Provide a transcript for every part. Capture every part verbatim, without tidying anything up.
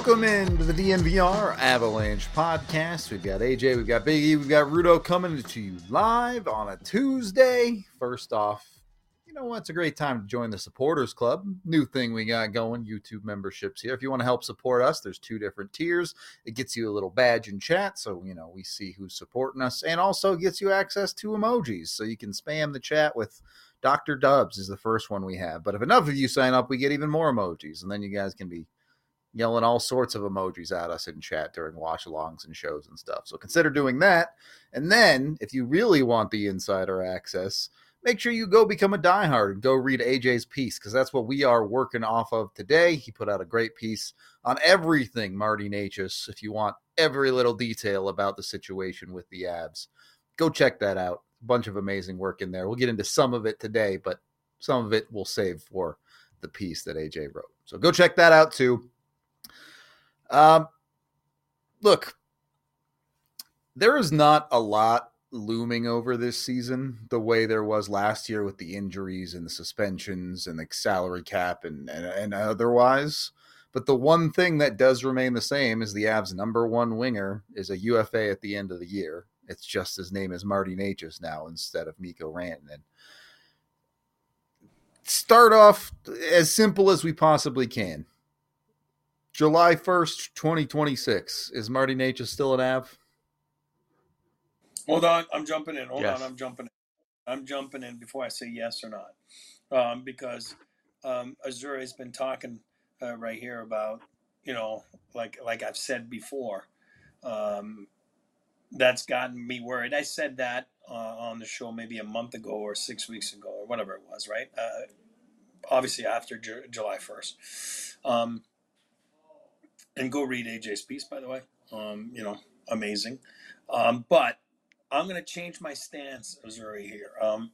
Welcome into the D N V R Avalanche podcast. We've got A J, we've got Big E, we've got Rudo coming to you live on a Tuesday. First off, you know what? It's a great time to join the Supporters Club. New thing we got going, YouTube memberships here. If you want to help support us, there's two different tiers. It gets you a little badge in chat, so, you know, we see who's supporting us, and also gets you access to emojis, so you can spam the chat with Doctor Dubs is the first one we have. But if enough of you sign up, we get even more emojis, and then you guys can be yelling all sorts of emojis at us in chat during watch-alongs and shows and stuff. So consider doing that. And then, if you really want the insider access, make sure you go become a diehard and go read A J's piece, because that's what we are working off of today. He put out a great piece on everything Marty Necas, if you want every little detail about the situation with the Avs. Go check that out. A bunch of amazing work in there. We'll get into some of it today, but some of it we'll save for the piece that A J wrote. So go check that out too. Um, look, there is not a lot looming over this season the way there was last year with the injuries and the suspensions and the salary cap and, and, and otherwise. But the one thing that does remain the same is the Avs' number one winger is a U F A at the end of the year. It's just his name is Marty Necas now instead of Mikko Rantanen. Start off as simple as we possibly can. July first, twenty twenty-six. Is Marty Necas still an Av? Hold on, I'm jumping in. Hold yes. on, I'm jumping in. I'm jumping in before I say yes or not. Um, because um, Azura has been talking uh, right here about, you know, like like I've said before, um, that's gotten me worried. I said that uh, on the show maybe a month ago or six weeks ago or whatever it was, right? Uh, obviously after Ju- July first. Um, and go read A J's piece, by the way. Um, you know, amazing. Um, but I'm going to change my stance, Azuri, here. Um,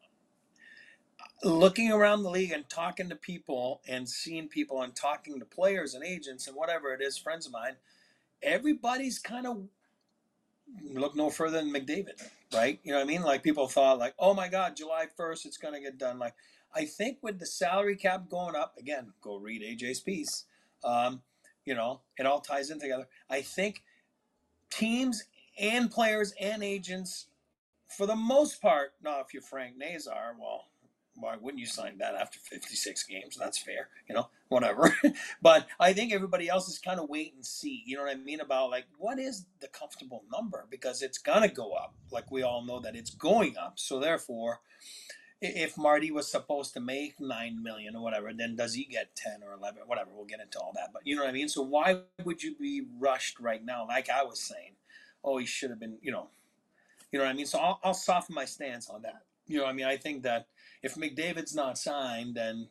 looking around the league and talking to people and seeing people and talking to players and agents and whatever it is, friends of mine, everybody's kind of look no further than McDavid, right? You know what I mean? Like people thought like, oh my God, July first, it's going to get done. Like I think with the salary cap going up, again, go read A J's piece. Um, you know, it all ties in together. I think teams and players and agents, for the most part, now if you're Frank Nazar, well, why wouldn't you sign that after fifty-six games? That's fair, you know, whatever. But I think everybody else is kind of wait and see, you know what I mean, about like, what is the comfortable number? Because it's going to go up. Like we all know that it's going up. So therefore, if Marty was supposed to make nine million or whatever, then does he get ten or eleven, whatever? We'll get into all that. But you know what I mean? So why would you be rushed right now? Like I was saying, oh, he should have been, you know, you know what I mean? So I'll, I'll soften my stance on that. You know what I mean? I think that if McDavid's not signed, then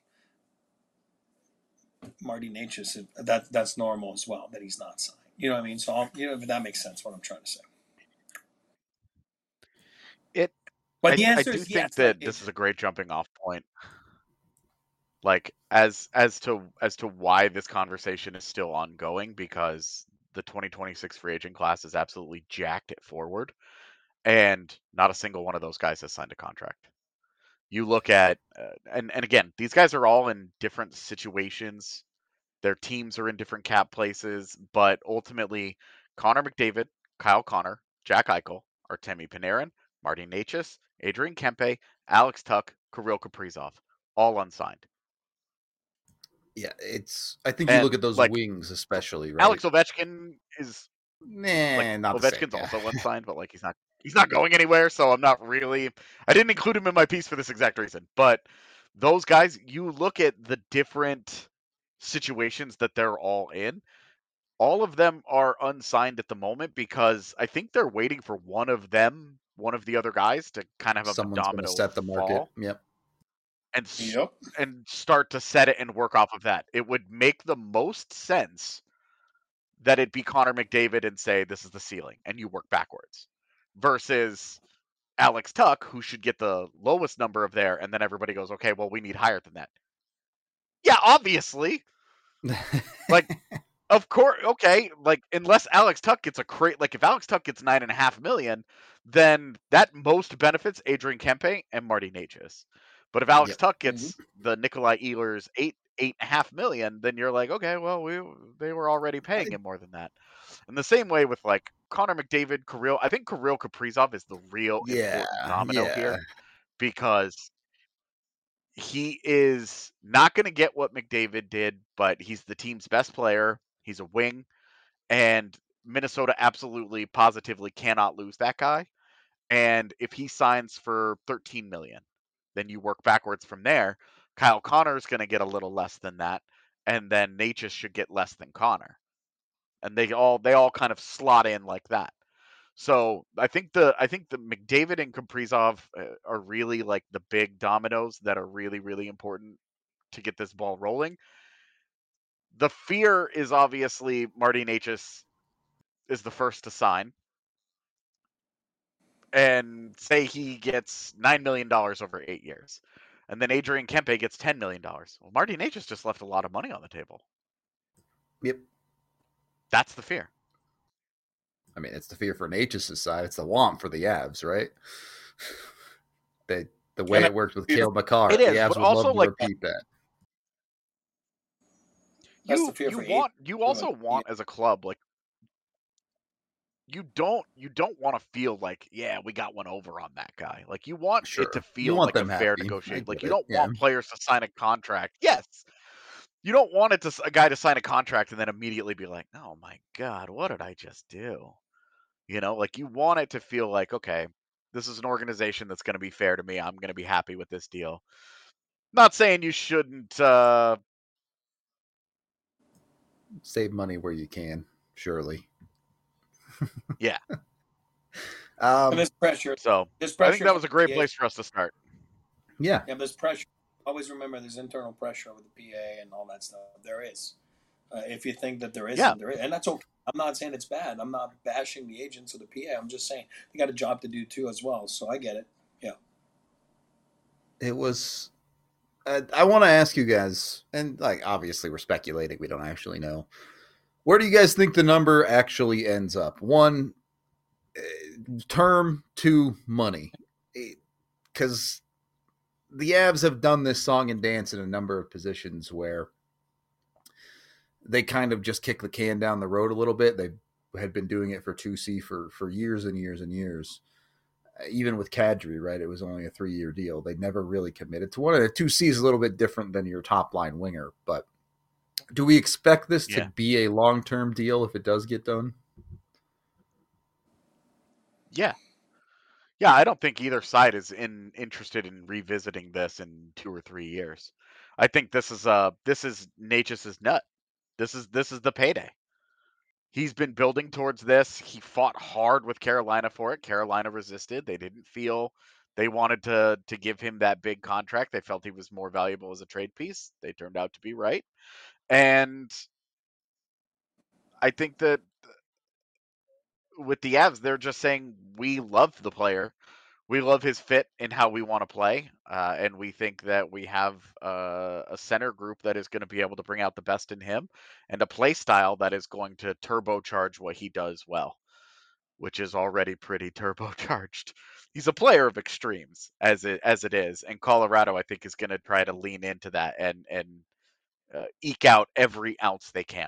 Marty Necas, that, that's normal as well, that he's not signed. You know what I mean? So I'll, you know, if that makes sense, what I'm trying to say. It, but I, the answer I do is think yes, that like this it, is a great jumping off point. Like as as to as to why this conversation is still ongoing, because the twenty twenty-six free agent class is absolutely jacked at forward, and not a single one of those guys has signed a contract. You look at, uh, and and again, these guys are all in different situations. Their teams are in different cap places, but ultimately, Connor McDavid, Kyle Connor, Jack Eichel, Artemi Panarin, Marty Necas, Adrian Kempe, Alex Tuch, Kirill Kaprizov, all unsigned. Yeah, it's. I think And, you look at those like, wings, especially, right? Alex Ovechkin is Nah, like not the same. Ovechkin's Yeah. also unsigned, but like he's not he's not going anywhere, so I'm not really. I didn't include him in my piece for this exact reason. But those guys, you look at the different situations that they're all in. All of them are unsigned at the moment because I think they're waiting for one of them, one of the other guys, to kind of have Someone's a going to domino set the market. fall Yep. and yep. and start to set it and work off of that. It would make the most sense that it be Connor McDavid and say this is the ceiling, and you work backwards, versus Alex Tuch, who should get the lowest number of there, and then everybody goes, okay, well, we need higher than that. Yeah, obviously. Like, of course, okay, like, unless Alex Tuch gets a crate, like, if Alex Tuch gets nine and a half million, then that most benefits Adrian Kempe and Marty Necas. But if Alex Yep. Tuch gets Mhm. the Nikolai Ehlers eight eight and a half million, then you're like, okay, well, we they were already paying him more than that. And the same way with like Connor McDavid, Kirill. I think Kirill Kaprizov is the real Yeah, important domino yeah. here because he is not going to get what McDavid did, but he's the team's best player. He's a wing, and Minnesota absolutely, positively cannot lose that guy. And if he signs for thirteen million, then you work backwards from there. Kyle Connor is going to get a little less than that, and then Natchez should get less than Connor, and they all they all kind of slot in like that. So I think the I think the McDavid and Kaprizov are really like the big dominoes that are really really important to get this ball rolling. The fear is obviously Marty Natchez is the first to sign, and say he gets nine million dollars over eight years, and then Adrian Kempe gets ten million dollars. Well, Marty Natchez just left a lot of money on the table. Yep. That's the fear. I mean, it's the fear for Natchez's side. It's the want for the Avs, right? They, the way And it worked with Cale Makar, it is, the Avs but would also love to like repeat that. That's You the fear you for want you also Adrian. want as a club like you don't you don't want to feel like, yeah, we got one over on that guy. Like you want Sure. it to You feel want like a them fair happy. I negotiation. Like get you it, don't yeah. want players to sign a contract. Yes. You don't want it to s- a guy to sign a contract and then immediately be like, "Oh my god, what did I just do?" You know, like you want it to feel like, okay, this is an organization that's going to be fair to me. I'm going to be happy with this deal. Not saying you shouldn't uh Save money where you can, surely. yeah. Um, And this pressure, So, this I pressure. think that was a great Yeah. place for us to start. yeah. Yeah, there's pressure. Always remember there's internal pressure over the P A and all that stuff. There is. Uh, if you think that there isn't, Yeah. there is, and that's okay. I'm not saying it's bad. I'm not bashing the agents or the P A. I'm just saying they got a job to do too as well. So I get it. Yeah. It was. Uh, I want to ask you guys, and like obviously we're speculating. We don't actually know. Where do you guys think the number actually ends up? One, uh, term, two, money. Because the Avs have done this song and dance in a number of positions where they kind of just kick the can down the road a little bit. They had been doing it for two C for, for years and years and years. Even with Kadri, right? It was only a three-year deal. They never really committed to one. And a two C is a little bit different than your top-line winger. But do we expect this Yeah. to be a long-term deal if it does get done? Yeah. Yeah, I don't think either side is in interested in revisiting this in two or three years. I think this is uh this is Natchez's nut. This is this is the payday. He's been building towards this. He fought hard with Carolina for it. Carolina resisted. They didn't feel they wanted to to give him that big contract. They felt he was more valuable as a trade piece. They turned out to be right. And I think that with the Avs, they're just saying we love the player. We love his fit and how we want to play, uh, and we think that we have uh, a center group that is going to be able to bring out the best in him, and a play style that is going to turbocharge what he does well, which is already pretty turbocharged. He's a player of extremes as it as it is, and Colorado, I think, is going to try to lean into that and and uh, eke out every ounce they can.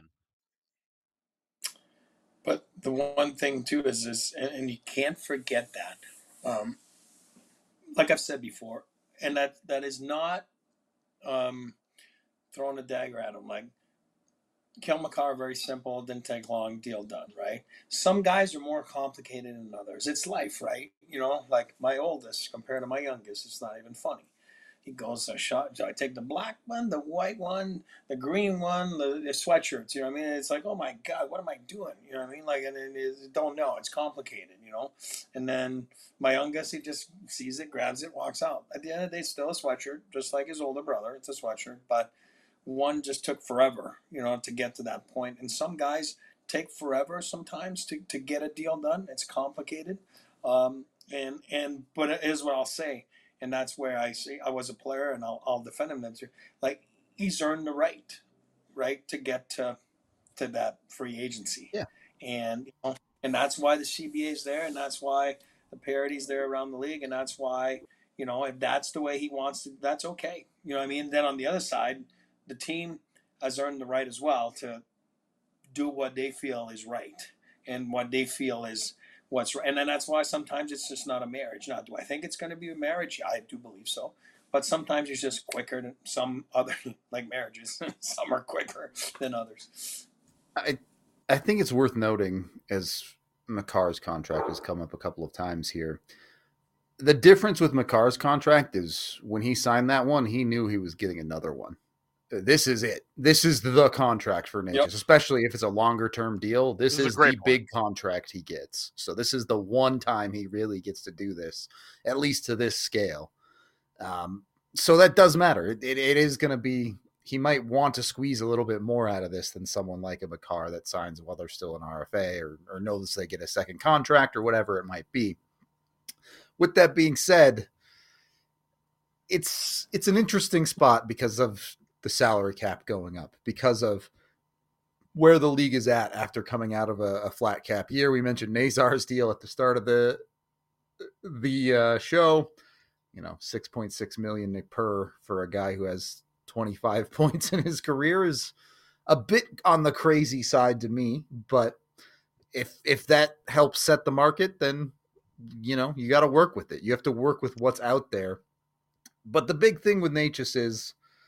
But the one thing too is this, and, and you can't forget that. Um, like I've said before, and that that is not um, throwing a dagger at him. Like Cale Makar, very simple, didn't take long, deal done, right? Some guys are more complicated than others. It's life, right? You know, like my oldest compared to my youngest, it's not even funny. He goes, I shot, I take the black one, the white one, the green one, the, the sweatshirts. You know what I mean? It's like, oh my God, what am I doing? You know what I mean? Like, and it, don't know. It's complicated, you know? And then my youngest, he just sees it, grabs it, walks out. At the end of the day, still a sweatshirt, just like his older brother. It's a sweatshirt, but one just took forever, you know, to get to that point. And some guys take forever sometimes to, to get a deal done. It's complicated. Um, and, and, but it is what I'll say. And that's where I say I was a player, and I'll, I'll defend him. That's like he's earned the right, right, to get to to that free agency. Yeah. And you know, and that's why the C B A is there, and that's why the parity's there around the league, and that's why, you know, if that's the way he wants to, that's okay. You know what I mean? Then on the other side, the team has earned the right as well to do what they feel is right and what they feel is what's right. And then that's why sometimes it's just not a marriage. Now, do I think it's going to be a marriage? I do believe so. But sometimes it's just quicker than some other, like marriages. Some are quicker than others. I I think it's worth noting, as Makar's contract has come up a couple of times here, the difference with Makar's contract is when he signed that one, he knew he was getting another one. This is it. This is the contract for Necas, yep. Especially if it's a longer term deal. This, this is, is the point. Big contract he gets. So this is the one time he really gets to do this, at least to this scale. Um, so that does matter. It, it, it is going to be, he might want to squeeze a little bit more out of this than someone like a Makar that signs while they're still in R F A or, or knows they get a second contract or whatever it might be. With that being said, it's it's an interesting spot because of the salary cap going up, because of where the league is at after coming out of a, a flat cap year. We mentioned Nazar's deal at the start of the the uh, show. You know, six point six million per for a guy who has twenty-five points in his career is a bit on the crazy side to me. But if if that helps set the market, then you know you got to work with it. You have to work with what's out there. But the big thing with Necas is,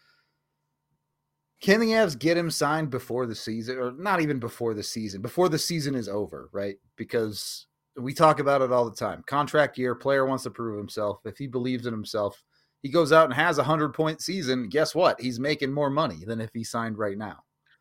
can the Avs get him signed before the season, or not even before the season, before the season is over, right? Because we talk about it all the time. Contract year, player wants to prove himself. If he believes in himself, he goes out and has a hundred-point season. Guess what? He's making more money than if he signed right now.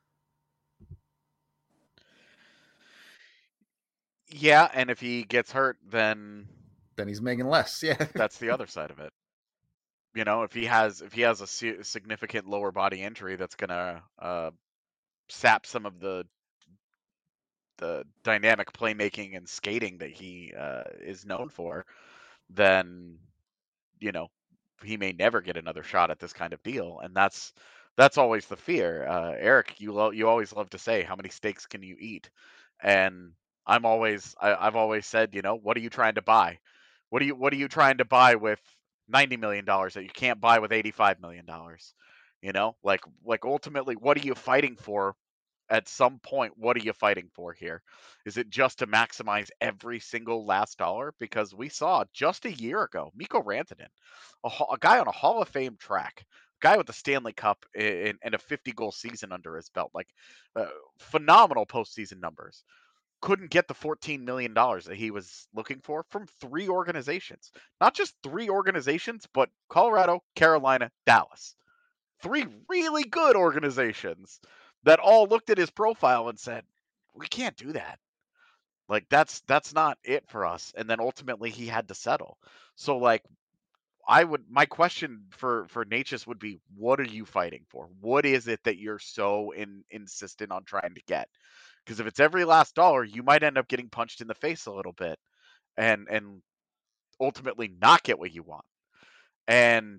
Yeah, and if he gets hurt, then... Then he's making less, yeah. That's the other side of it. You know, if he has if he has a significant lower body injury that's going to uh, sap some of the the dynamic playmaking and skating that he uh, is known for, then, you know, he may never get another shot at this kind of deal. And that's that's always the fear. Uh, Eric, you lo- you always love to say, how many steaks can you eat? And I'm always I, I've always said, you know, what are you trying to buy? What are you what are you trying to buy with ninety million dollars that you can't buy with eighty-five million dollars? You know, like like ultimately, what are you fighting for? At some point, what are you fighting for here? Is it just to maximize every single last dollar? Because we saw just a year ago, Mikko Rantanen, a, a guy on a Hall of Fame track, a guy with the Stanley Cup and, and a fifty-goal season under his belt, like uh, phenomenal postseason numbers, couldn't get the fourteen million dollars that he was looking for from three organizations. Not just three organizations, but Colorado, Carolina, Dallas. Three really good organizations that all looked at his profile and said, we can't do that. Like, that's that's not it for us. And then ultimately he had to settle. So, like, I would, my question for, for Necas would be, what are you fighting for? What is it that you're so in, insistent on trying to get? Because if it's every last dollar, you might end up getting punched in the face a little bit and, and ultimately not get what you want. And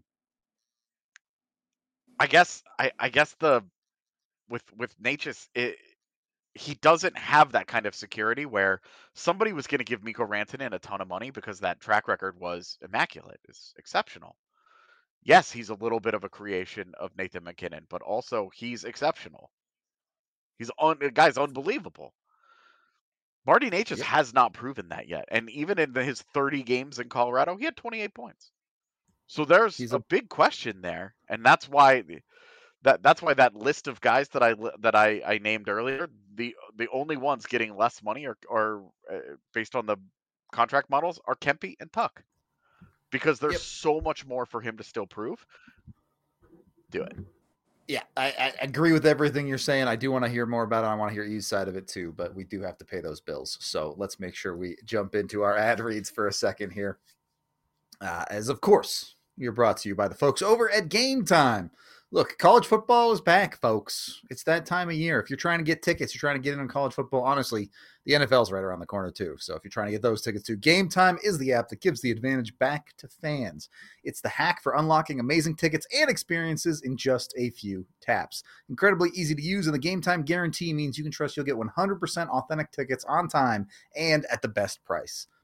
I guess, I, I guess the, with, with Necas, it, he doesn't have that kind of security where somebody was going to give Mikko Rantanen a ton of money because that track record was immaculate, is exceptional. Yes, he's a little bit of a creation of Nathan MacKinnon, but also he's exceptional. He's un- the guy's unbelievable. Marty Necas yep. has not proven that yet. And even in his thirty games in Colorado, he had twenty-eight points. So there's a, a big question there. And that's why that that's why that list of guys that I that I, I named earlier, the the only ones getting less money are, are uh, based on the contract models are Kempe and Tuck, because there's yep. so much more for him to still prove. Do it. Yeah, I, I agree with everything you're saying. I do want to hear more about it. I want to hear E's side of it too, but we do have to pay those bills. So let's make sure we jump into our ad reads for a second here. Uh, as of course, we are brought to you by the folks over at Game Time. Look, college football is back, folks. It's that time of year. If you're trying to get tickets, you're trying to get in on college football, honestly, the N F L's right around the corner too. So if you're trying to get those tickets too, Game Time is the app that gives the advantage back to fans. It's the hack for unlocking amazing tickets and experiences in just a few taps. Incredibly easy to use, and the Game Time guarantee means you can trust you'll get one hundred percent authentic tickets on time and at the best price.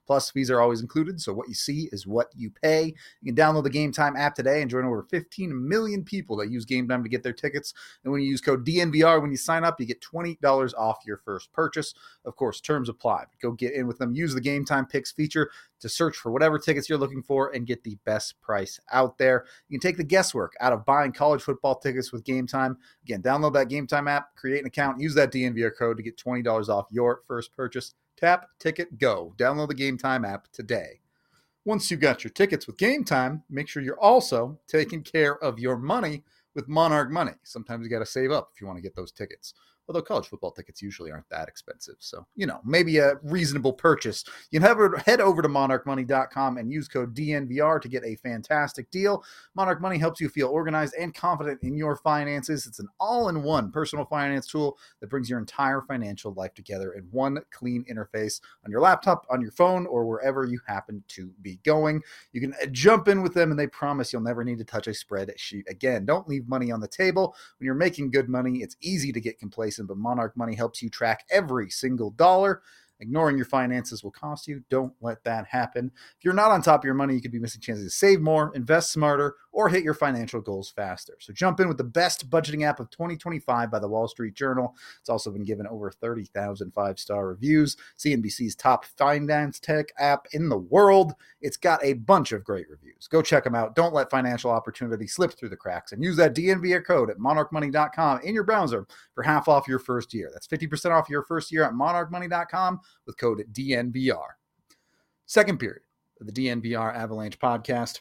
Plus, fees are always included, so what you see is what you pay. You can download the Game Time app today and join over fifteen million people that use Game Time to get their tickets. And when you use code D N V R when you sign up, you get twenty dollars off your first purchase. Of course, terms apply. But go get in with them. Use the Game Time Picks feature to search for whatever tickets you're looking for and get the best price out there. You can take the guesswork out of buying college football tickets with Game Time. Again, download that Game Time app, create an account, use that D N V R code to get twenty dollars off your first purchase. Tap, ticket, go. Download the Game Time app today. Once you got your tickets with Game Time, make sure you're also taking care of your money with Monarch Money. Sometimes you got to save up if you want to get those tickets. Although college football tickets usually aren't that expensive. So, you know, maybe a reasonable purchase. You can have, head over to monarch money dot com and use code D N V R to get a fantastic deal. Monarch Money helps you feel organized and confident in your finances. It's an all-in-one personal finance tool that brings your entire financial life together in one clean interface on your laptop, on your phone, or wherever you happen to be going. You can jump in with them, and they promise you'll never need to touch a spreadsheet again. Don't leave money on the table. When you're making good money, it's easy to get complacent, but Monarch Money helps you track every single dollar. Ignoring your finances will cost you. Don't let that happen. If you're not on top of your money, you could be missing chances to save more, invest smarter, or hit your financial goals faster. So jump in with the best budgeting app of twenty twenty-five by the Wall Street Journal. It's also been given over thirty thousand five-star reviews. C N B C's top finance tech app in the world. It's got a bunch of great reviews. Go check them out. Don't let financial opportunity slip through the cracks, and use that D N V R code at monarch money dot com in your browser for half off your first year. That's fifty percent off your first year at monarch money dot com with code D N V R. Second period of the D N V R Avalanche podcast.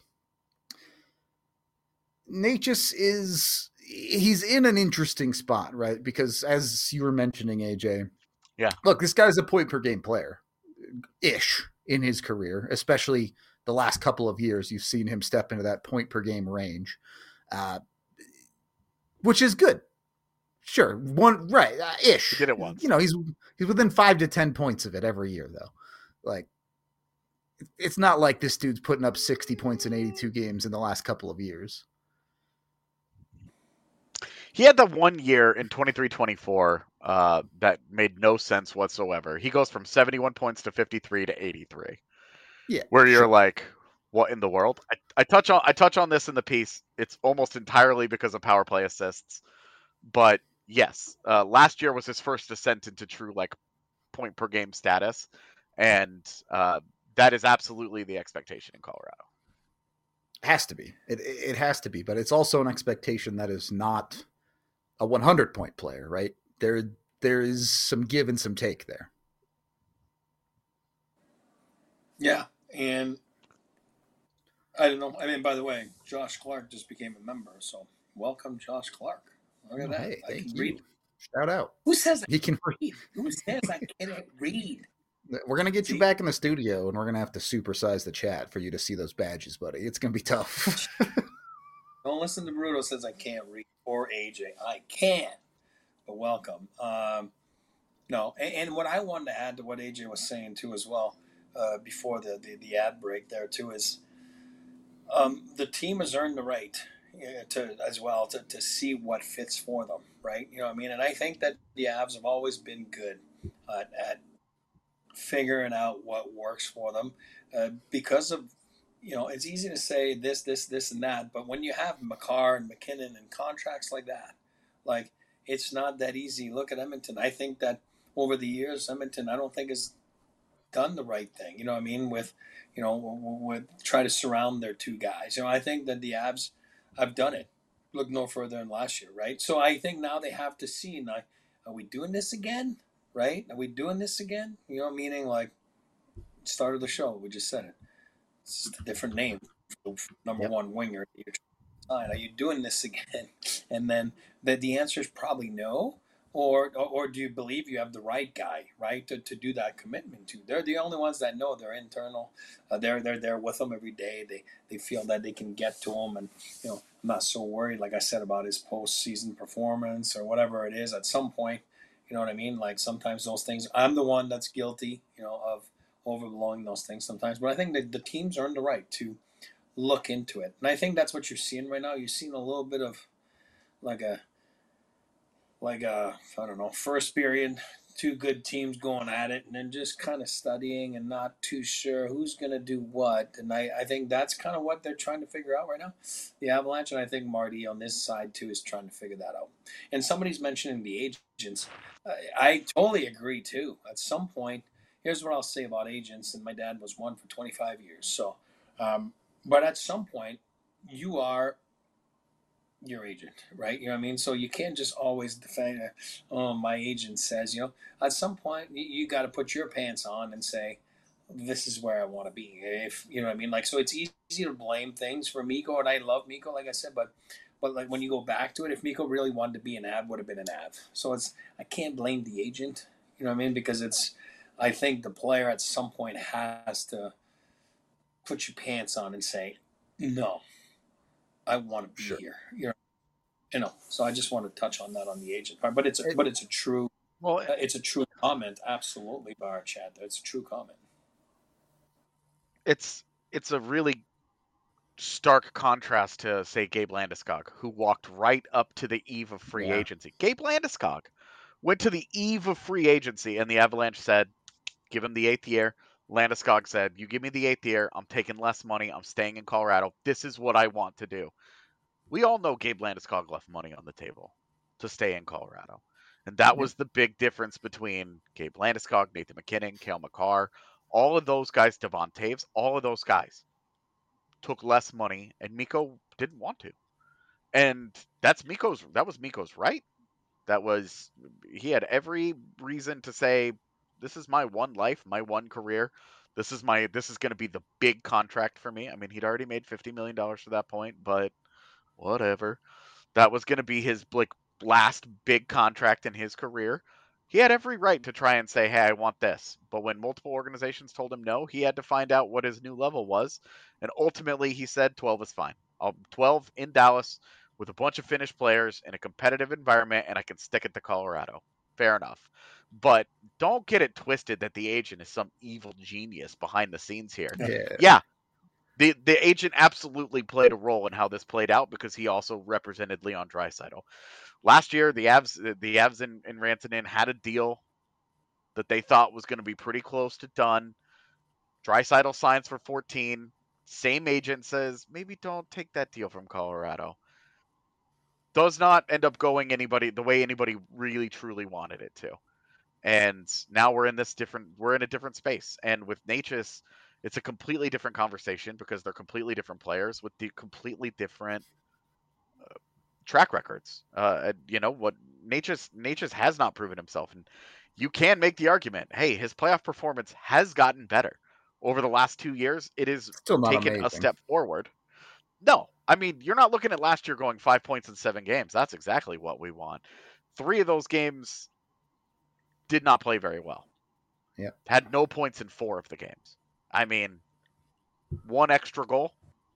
Necas is, he's in an interesting spot, right? Because as you were mentioning, A J, yeah, look, this guy's a point per game player ish in his career, especially the last couple of years. You've seen him step into that point per game range, uh, which is good. Sure, one right uh, ish. He did it once. You know, he's he's within five to ten points of it every year, though. Like, it's not like this dude's putting up sixty points in eighty-two games in the last couple of years. He had the one year in twenty-three twenty-four uh, that made no sense whatsoever. He goes from seventy-one points to fifty-three to eighty-three. Yeah, where you're sure. like, what in the world? I, I touch on I touch on this in the piece. It's almost entirely because of power play assists, but yes, uh, last year was his first descent into true like point per game status, and uh, that is absolutely the expectation in Colorado. Has to be. It it has to be, but it's also an expectation that is not a one hundred point player, right? There there is some give and some take there. Yeah, and I don't know. I mean, by the way, Josh Clark just became a member, so welcome, Josh Clark. Look at Oh, that. hey, I thank can you. read. Shout out. Who says I He can. read? Who says I can't read? We're gonna get you See? back in the studio, and we're gonna have to supersize the chat for you to see those badges, buddy. It's gonna be tough. Don't listen to Bruto says I can't read, or A J. I can, but welcome. Um, no, and, and what I wanted to add to what A J was saying too, as well, uh, before the, the the ad break there too, is um, the team has earned the right uh, to as well to, to see what fits for them, right? You know what I mean? And I think that the Avs have always been good uh, at figuring out what works for them uh, because of, you know, it's easy to say this, this, this, and that, but when you have Makar and McKinnon and contracts like that, like, it's not that easy. Look at Edmonton. I think that over the years, Edmonton, I don't think has done the right thing. You know what I mean? With, you know, with try to surround their two guys. You know, I think that the Avs have done it. Look no further than last year, right? So I think now they have to see, now, are we doing this again? Right? Are we doing this again? You know, meaning like, start of the show, we just said it. It's just a different name for the number Yep. one winger. You're trying to sign. Are you doing this again? And then the, the answer is probably no. Or, or or do you believe you have the right guy, right, to, to do that commitment to? They're the only ones that know. They're internal. Uh, they're they're there with them every day. They they feel that they can get to him, and you know, I'm not so worried, like I said, about his postseason performance or whatever it is. At some point, you know what I mean. Like sometimes those things, I'm the one that's guilty, you know, of overblowing those things sometimes. But I think that the teams earned the right to look into it, and I think that's what you're seeing right now. You're seeing a little bit of like a. like a, I don't know, first period two good teams going at it, and then just kind of studying and not too sure who's going to do what. And I, I think that's kind of what they're trying to figure out right now, the Avalanche. And I think Marty on this side too is trying to figure that out. And somebody's mentioning the agents. I, I totally agree too. At some point, here's what I'll say about agents. And my dad was one for twenty-five years. So, um, but at some point, you are your agent, right? You know what I mean? So you can't just always defend, oh, my agent says, you know, at some point you, you got to put your pants on and say, this is where I want to be. If you know what I mean? Like, so it's easy to blame things for Mikko, and I love Mikko, like I said, but, but like when you go back to it, if Mikko really wanted to be an Av, would have been an Av. So it's, I can't blame the agent, you know what I mean? Because it's, I think the player at some point has to put your pants on and say, no, I want to be Sure. here. You know, you know. So I just want to touch on that on the agent part, but it's a, It- but it's a true, Well, uh, it's a true comment. Absolutely, by our chat, it's a true comment. it's it's a really stark contrast to, say, Gabe Landeskog, who walked right up to the eve of free Yeah. agency. Gabe Landeskog went to the eve of free agency, and the Avalanche said, give him the eighth year. Landeskog said, you give me the eighth year, I'm taking less money, I'm staying in Colorado. This is what I want to do. We all know Gabe Landeskog left money on the table to stay in Colorado. And that Yep. was the big difference between Gabe Landeskog, Nathan MacKinnon, Cale Makar, all of those guys, Devon Taves, all of those guys took less money, and Mikko didn't want to. And that's Mikko's, that was Mikko's right. That was, he had every reason to say, this is my one life, my one career. This is my, this is going to be the big contract for me. I mean, he'd already made fifty million dollars to that point, but whatever. That was going to be his like last big contract in his career. He had every right to try and say, hey, I want this. But when multiple organizations told him no, he had to find out what his new level was. And ultimately, he said twelve is fine. I'll twelve in Dallas with a bunch of Finnish players in a competitive environment, and I can stick it to Colorado. Fair enough. But don't get it twisted that the agent is some evil genius behind the scenes here. Yeah. Yeah, the the agent absolutely played a role in how this played out because he also represented Leon Draisaitl. Last year, the Avs the Avs and, and Rantanen had a deal that they thought was going to be pretty close to done. Draisaitl signs for fourteen. Same agent says, maybe don't take that deal from Colorado. Does not end up going anybody the way anybody really truly wanted it to. And now we're in this different we're in a different space. And with Necas, it's a completely different conversation because they're completely different players with the completely different uh, track records. Uh, you know what? Necas Necas has not proven himself, and you can make the argument, hey, his playoff performance has gotten better over the last two years. It is Still not taken amazing. a step forward. No, I mean, you're not looking at last year going five points in seven games. That's exactly what we want. Three of those games did not play very well. Yeah. Had no points in four of the games. I mean, one extra goal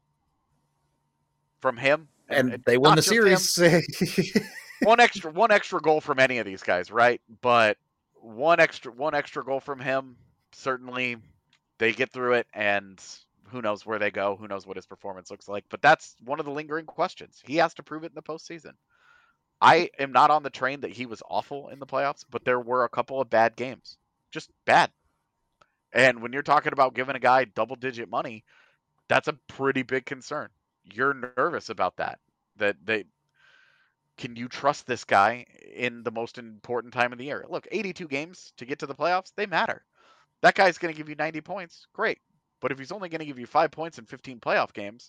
from him, And, and they won not the just series. one extra one extra goal from any of these guys, right? But one extra one extra goal from him, certainly they get through it, and who knows where they go, who knows what his performance looks like. But that's one of the lingering questions. He has to prove it in the postseason. I am not on the train that he was awful in the playoffs, but there were a couple of bad games. Just bad. And when you're talking about giving a guy double digit money, that's a pretty big concern. You're nervous about that. That they can you trust this guy in the most important time of the year? Look, eighty-two games to get to the playoffs, they matter. That guy's going to give you ninety points. Great. But if he's only going to give you five points in fifteen playoff games,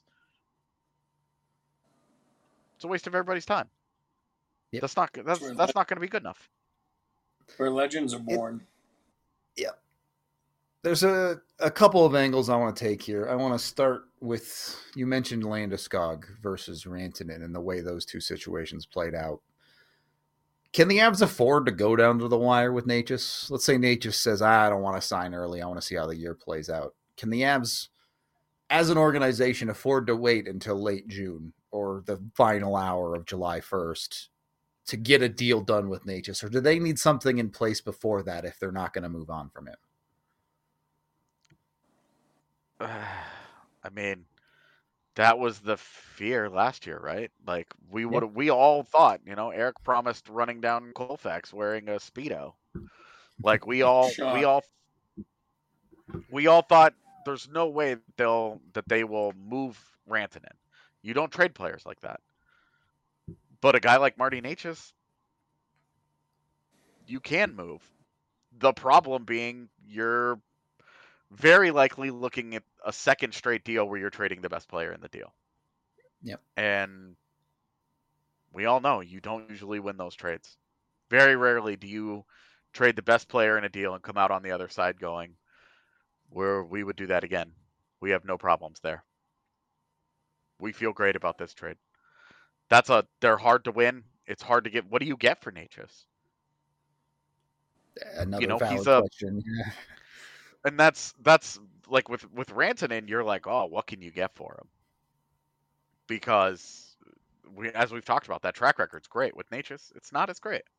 it's a waste of everybody's time. Yep. That's not that's Where that's le- not going to be good enough. where legends are born. Yeah. There's a, a couple of angles I want to take here. I want to start with, you mentioned Landeskog versus Rantanen and the way those two situations played out. Can the Avs afford to go down to the wire with Necas? Let's say Necas says, I don't want to sign early. I want to see how the year plays out. Can the Avs, as an organization, afford to wait until late June or the final hour of July first to get a deal done with Necas? Or do they need something in place before that if they're not going to move on from him? I mean, that was the fear last year, right? Like we would, Yep. we all thought, you know, Eric promised running down Colfax wearing a Speedo. Like we all, Shock. we all, we all thought there's no way they'll that they will move Rantanen. You don't trade players like that. But a guy like Marty Necas, you can move. The problem being you're very likely looking at a second straight deal where you're trading the best player in the deal. Yep. And we all know you don't usually win those trades. Very rarely do you trade the best player in a deal and come out on the other side going, where we would do that again. We have no problems there. We feel great about this trade. That's a they're hard to win. It's hard to get. What do you get for Necas? Another You know, valid he's a- question. Yeah. And that's that's like with with Rantanen, you're like, oh, what can you get for him? Because we, as we've talked about, that track record's great. With Necas, it's not as great.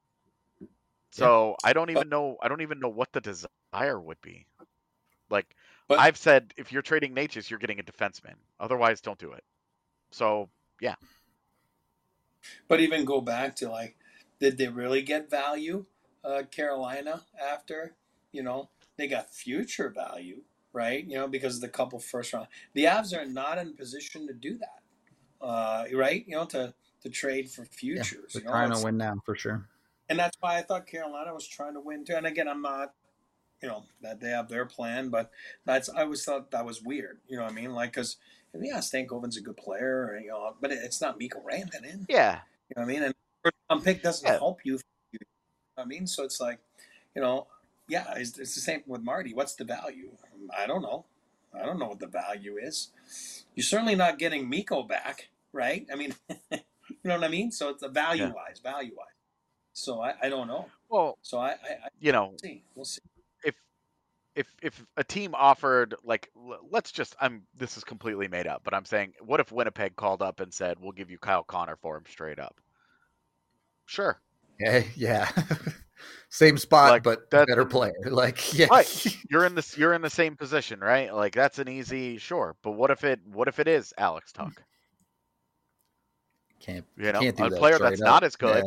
So I don't even know. I don't even know what the desire would be. Like But- I've said, if you're trading Necas, you're getting a defenseman. Otherwise, don't do it. So yeah, But even go back to like, did they really get value, uh, Carolina, after, you know, they got future value, right? You know, because of the couple first round. The Avs are not in position to do that, uh, right? You know, to, to trade for Yeah, futures. they're you know, trying it's- to win now for sure. And that's why I thought Carolina was trying to win too. And again, I'm not, you know, that they have their plan, but that's I always thought that was weird. You know what I mean? Like, because yeah, Stankoven's a good player, you know, but it's not Mikko Rantanen. yeah, You know what I mean? And first round pick doesn't Yeah. help you. You know what I mean? So it's like, you know, yeah, it's, it's the same with Marty. What's the value? I don't know. I don't know what the value is. You're certainly not getting Mikko back, right? I mean, you know what I mean? So it's a value wise, value wise. So I, I don't know. Well, So I, I, I you know, we'll see. We'll see. if if if a team offered, like, l- let's just, I'm this is completely made up, but I'm saying, what if Winnipeg called up and said, we'll give you Kyle Connor for him straight up? Sure. Yeah, yeah. Same spot, Like, but that- better player. Like, yeah, Right. You're in this. You're in the same position, right? Like that's an easy, sure. But what if it? What if it is Alex Tuck? can't You know, can't do a that player straight that's up. not as good Yeah.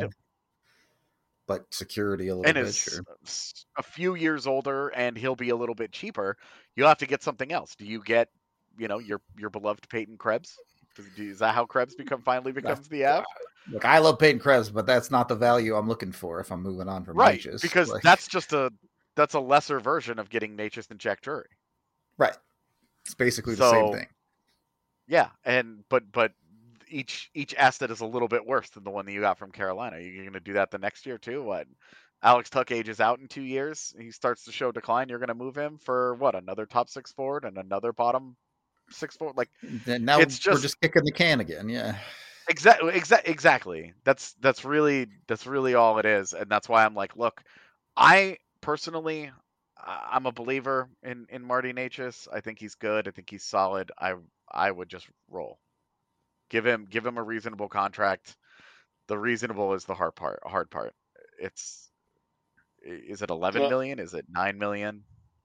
But security a little and bit. is Sure. s- a few years older, and he'll be a little bit cheaper. You'll have to get something else. Do you get, you know, your your beloved Peyton Krebs? Does, is that how Krebs become finally becomes the Av? Look, I love Peyton Krebs, but that's not the value I'm looking for if I'm moving on from Right, Necas. because Like, that's just a that's a lesser version of getting Necas and Jack Drury. right. It's basically the So- same thing. Yeah, and but but each each asset is a little bit worse than the one that you got from Carolina. You're going to do that the next year too. What? Alex Tuck ages out in two years. He starts to show decline. You're going to move him for what? Another top six forward and another bottom six forward. Like Then now it's we're just- just kicking the can again. Yeah. exactly, exactly, exactly. That's that's really that's really all it is, and that's why I'm like, look, I personally, I- I'm a believer in in Marty Necas. I think he's good. I think he's solid. I I would just roll. Give him give him a reasonable contract. The reasonable is the hard part. Hard part. It's is it eleven Well- million? Is it nine million?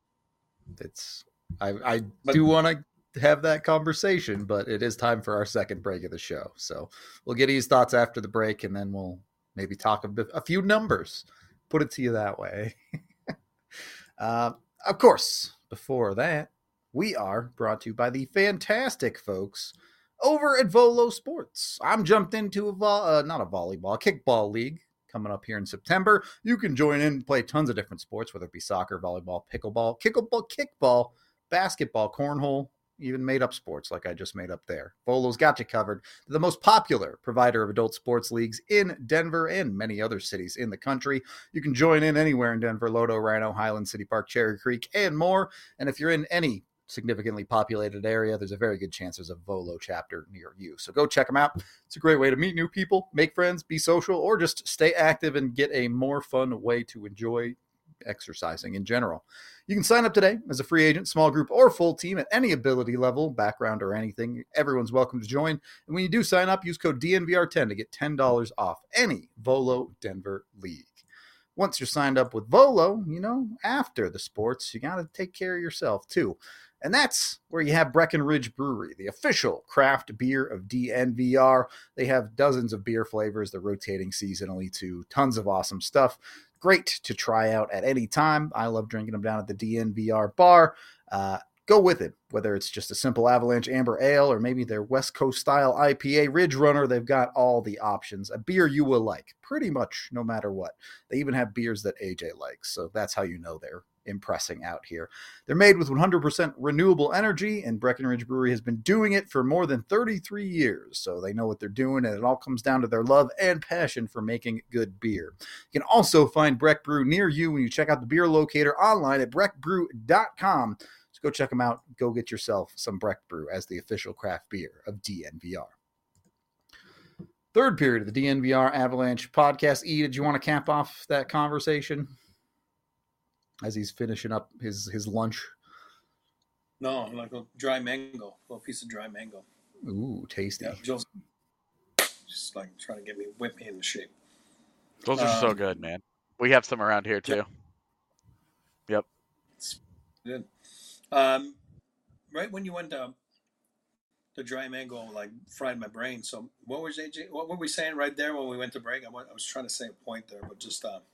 It's I I But- do want to have that conversation, but it is time for our second break of the show. So we'll get his thoughts after the break, and then we'll maybe talk a, bit, a few numbers. Put it to you that way. uh, of course, before that, we are brought to you by the fantastic folks over at Volo Sports. I'm jumped into a vo- uh, not a volleyball, a kickball league coming up here in September. You can join in and play tons of different sports, whether it be soccer, volleyball, pickleball, kickball, kickball, basketball, cornhole, even made up sports like I just made up there. Volo's got you covered. They're the most popular provider of adult sports leagues in Denver and many other cities in the country. You can join in anywhere in Denver, Lodo, Rhino, Highland, City Park, Cherry Creek, and more. And if you're in any significantly populated area, there's a very good chance there's a Volo chapter near you. So go check them out. It's a great way to meet new people, make friends, be social, or just stay active and get a more fun way to enjoy exercising in general. You can sign up today as a free agent, small group, or full team at any ability level, background, or anything. Everyone's welcome to join. And when you do sign up, use code D N V R ten to get ten dollars off any Volo Denver league. Once you're signed up with Volo, you know, after the sports, you got to take care of yourself too. And that's where you have Breckenridge Brewery, the official craft beer of D N V R. They have dozens of beer flavors. They're rotating seasonally too. Tons of awesome stuff. great to try out at any time. I love drinking them down at the D N V R bar. Uh, go with it, whether it's just a simple Avalanche Amber Ale or maybe their West Coast style I P A Ridge Runner. They've got all the options. A beer you will like, pretty much no matter what. They even have beers that A J likes, so that's how you know they're impressing out here. They're made with one hundred percent renewable energy, and Breckenridge Brewery has been doing it for more than thirty-three years, so they know what they're doing, and it all comes down to their love and passion for making good beer. You can also find Breck Brew near you when you check out the beer locator online at breck brew dot com. So go check them out. Go get yourself some Breck Brew as the official craft beer of D N V R. Third period of the D N V R Avalanche podcast. E, did you want to cap off that conversation as he's finishing up his, his lunch? No, like a dry mango, a little piece of dry mango. Ooh, tasty. Yeah, just, just like trying to get me, whip me into shape. Those are um, so good, man. We have some around here too. Yeah. Yep. It's good. Um, right when you went to the dry mango, like fried my brain. So what was A J? What were we saying right there when we went to break? I, went, I was trying to say a point there, but just uh,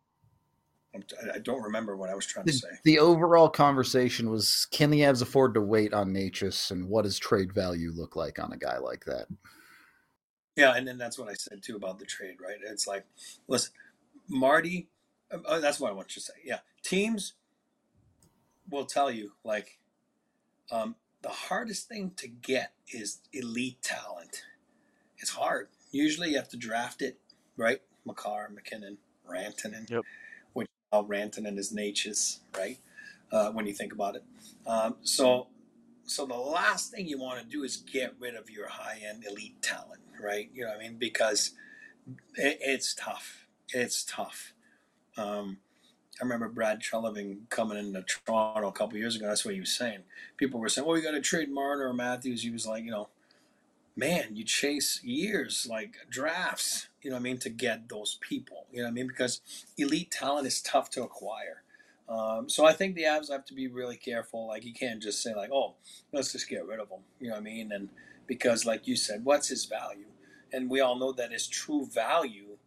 I don't remember what I was trying the, to say. The overall conversation was: can the Avs afford to wait on Necas, and what does trade value look like on a guy like that? Yeah, and then that's what I said too about the trade. Right? It's like, listen, Marty. Uh, that's what I want you to say. Yeah, teams will tell you like. Um, The hardest thing to get is elite talent. It's hard. Usually you have to draft it, right? Makar, McKinnon, Rantanen. Yep. Which all Rantanen is Necas, right? Uh, when you think about it. Um, so so the last thing you want to do is get rid of your high-end elite talent, right? You know what I mean? Because it, it's tough. It's tough. Um, I remember Brad Treliving coming into Toronto a couple years ago. That's what he was saying. People were saying, well, we got to trade Marner or Matthews. He was like, you know, man, you chase years, like drafts, you know what I mean, to get those people. You know what I mean? Because elite talent is tough to acquire. Um, so I think the Avs have to be really careful. Like, you can't just say, like, oh, let's just get rid of him. You know what I mean? And because, like you said, what's his value? And we all know that his true value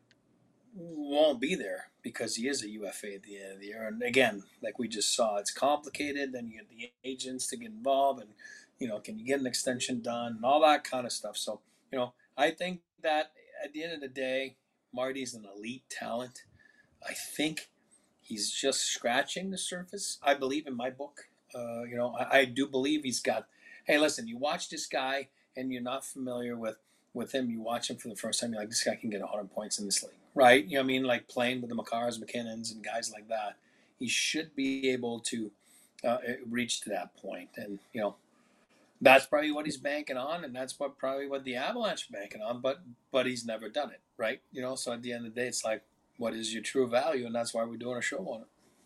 won't be there because he is a U F A at the end of the year. And again, like we just saw, it's complicated. Then you get the agents to get involved, and you know, can you get an extension done and all that kind of stuff. So, you know, I think that at the end of the day, Marty's an elite talent. I think he's just scratching the surface. I believe in my book. Uh, you know, I, I do believe he's got. Hey, listen, you watch this guy and you're not familiar with with him. You watch him for the first time. You're like, this guy can get one hundred points in this league. Right, you know what I mean, like playing with the Makars, McKinnons, and guys like that, he should be able to uh, reach to that point. And you know, that's probably what he's banking on, and that's what probably what the Avalanche are banking on. But but he's never done it, right? You know, so at the end of the day, it's like, what is your true value, and that's why we're doing a show on it.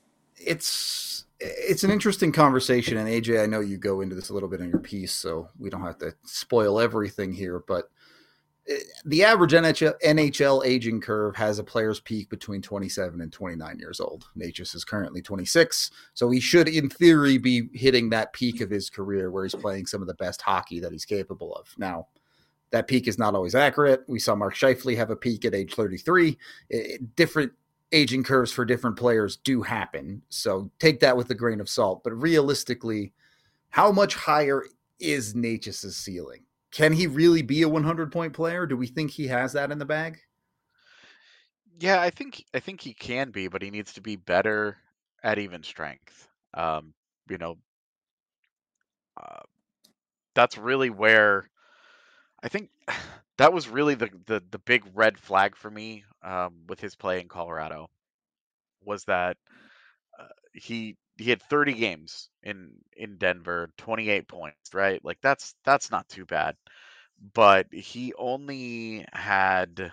It's it's an interesting conversation, and A J, I know you go into this a little bit in your piece, so we don't have to spoil everything here, but the average N H L aging curve has a player's peak between twenty-seven and twenty-nine years old. Necas is currently twenty-six, so he should, in theory, be hitting that peak of his career where he's playing some of the best hockey that he's capable of. Now, that peak is not always accurate. We saw Mark Scheifele have a peak at age thirty-three. It, different aging curves for different players do happen, so take that with a grain of salt. But realistically, how much higher is Necas' ceiling? Can he really be a one hundred point player? Do we think he has that in the bag? Yeah, I think I think he can be, but he needs to be better at even strength. Um, you know, uh, that's really where I think that was really the, the, the big red flag for me um, with his play in Colorado was that uh, he he had thirty games in in Denver, twenty-eight points, right? Like that's that's not too bad. But he only had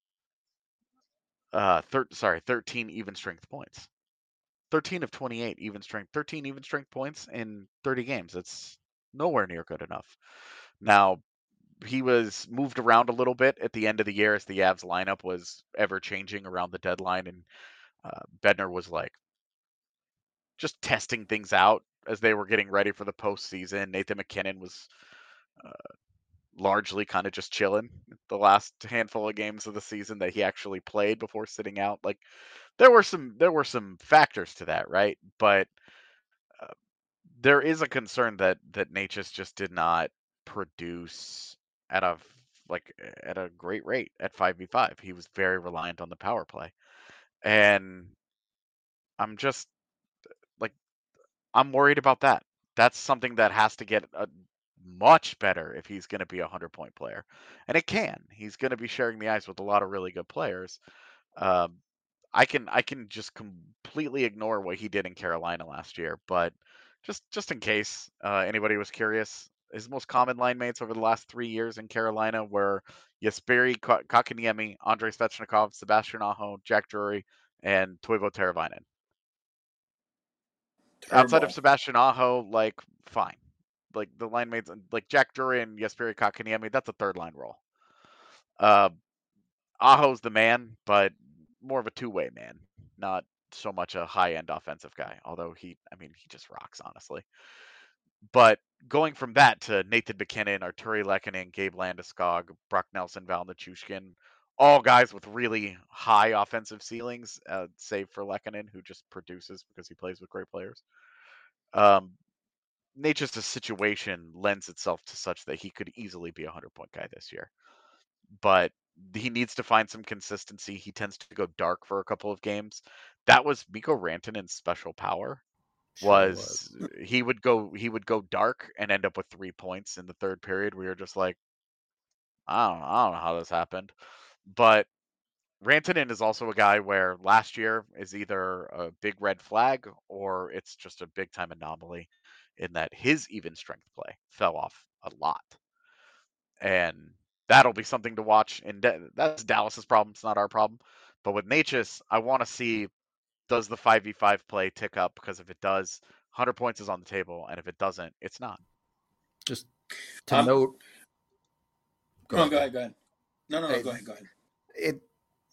uh thir- sorry, thirteen even strength points. thirteen of twenty-eight even strength, thirteen even strength points in thirty games. That's nowhere near good enough. Now, he was moved around a little bit at the end of the year as the Avs lineup was ever changing around the deadline, and uh, Bednar was like just testing things out as they were getting ready for the postseason. Nathan McKinnon was uh, largely kind of just chilling the last handful of games of the season that he actually played before sitting out. Like there were some there were some factors to that, right? But uh, there is a concern that that Natchez just did not produce at a like at a great rate at five v five. He was very reliant on the power play. And I'm just like I'm worried about that. That's something that has to get a much better if he's going to be a hundred point player, and it can. He's going to be sharing the ice with a lot of really good players. Um, I can I can just completely ignore what he did in Carolina last year, but just just in case uh, anybody was curious, his most common line mates over the last three years in Carolina were Jesperi Kotkaniemi, Andrei Svechnikov, Sebastian Aho, Jack Drury, and Toivo Teravainen. Outside of Turbo. Sebastian Aho, like fine, like the line mates, like Jack Drury and Jesperi Kotkaniemi, that's a third line role. Uh, Aho's the man, but more of a two-way man, not so much a high-end offensive guy. Although he, I mean, he just rocks, honestly. But going from that to Nathan MacKinnon, Arturi Lehkonen, Gabe Landeskog, Brock Nelson, Val Nichushkin, all guys with really high offensive ceilings, uh, save for Lehkonen, who just produces because he plays with great players. Um, Natchez' situation lends itself to such that he could easily be a hundred-point guy this year. But he needs to find some consistency. He tends to go dark for a couple of games. That was Mikko Rantanen's special power. Sure Was, was he would go he would go dark and end up with three points in the third period. We were just like, I don't know, I don't know how this happened. But Rantanen is also a guy where last year is either a big red flag or it's just a big time anomaly in that his even strength play fell off a lot. And that'll be something to watch. And that's Dallas's problem. It's not our problem. But with Natchez, I want to see, does the five v five play tick up? Because if it does, one hundred points is on the table. And if it doesn't, it's not. Just to Um, note. Go no, ahead. go ahead. Go ahead. No, no, no. Hey, go ahead. Go ahead. It.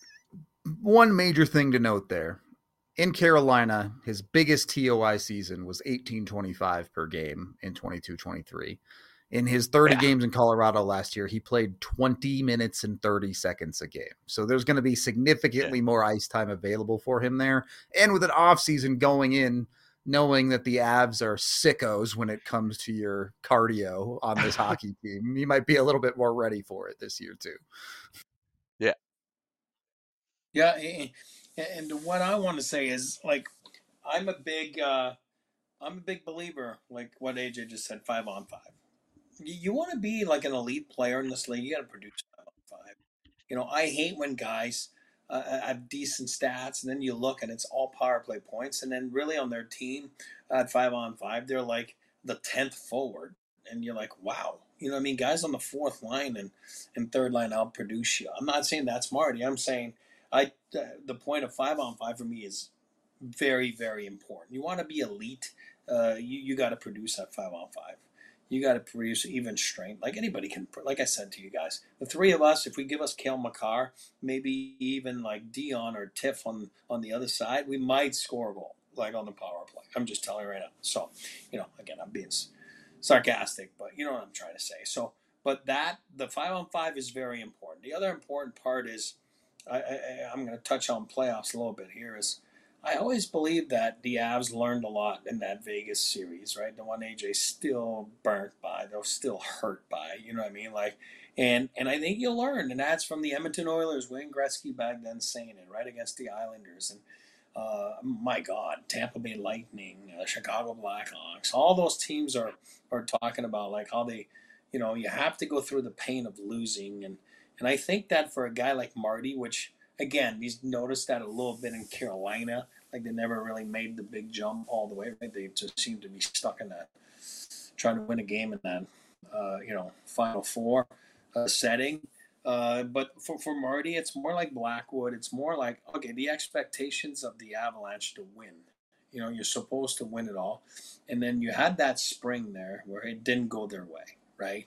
One major thing to note there. In Carolina, his biggest T O I season was eighteen twenty-five per game in twenty-two twenty-three. In his thirty yeah. games in Colorado last year, he played twenty minutes and thirty seconds a game. So there's going to be significantly yeah. more ice time available for him there. And with an offseason going in, knowing that the Avs are sickos when it comes to your cardio on this hockey team, he might be a little bit more ready for it this year too. Yeah. Yeah. And what I want to say is, like, I'm a big, uh, I'm a big believer, like what A J just said, five on five. You want to be like an elite player in this league, you got to produce five on five. You know, I hate when guys uh, have decent stats and then you look and it's all power play points, and then really on their team at five on five, they're like the tenth forward, and you're like, wow. You know what I mean? Guys on the fourth line and, and third line outproduce you. I'm not saying that's Marty. I'm saying I uh, the point of five on five for me is very, very important. You want to be elite, uh, you, you got to produce at five on five. You got to produce even strength. Like anybody can, like I said to you guys, the three of us, if we give us Cale Makar, maybe even like Dion or Tiff on, on the other side, we might score a goal, like on the power play. I'm just telling you right now. So, you know, again, I'm being sarcastic, but you know what I'm trying to say. So, but that, the five on five is very important. The other important part is, I, I, I'm going to touch on playoffs a little bit here, is I always believe that the Avs learned a lot in that Vegas series, right? The one A J still burnt by, they're still hurt by, you know what I mean? Like, and and I think you learn, and that's from the Edmonton Oilers, Wayne Gretzky back then saying it, right, against the Islanders, and uh, my God, Tampa Bay Lightning, uh, Chicago Blackhawks, all those teams are are talking about like how they, you know, you have to go through the pain of losing, and and I think that for a guy like Marty, which again, he's noticed that a little bit in Carolina. Like they never really made the big jump all the way. Right? They just seem to be stuck in that, trying to win a game in that, uh, you know, Final Four uh, setting. Uh, but for, for Marty, it's more like Blackwood. It's more like, okay, the expectations of the Avalanche to win. You know, you're supposed to win it all. And then you had that spring there where it didn't go their way, right?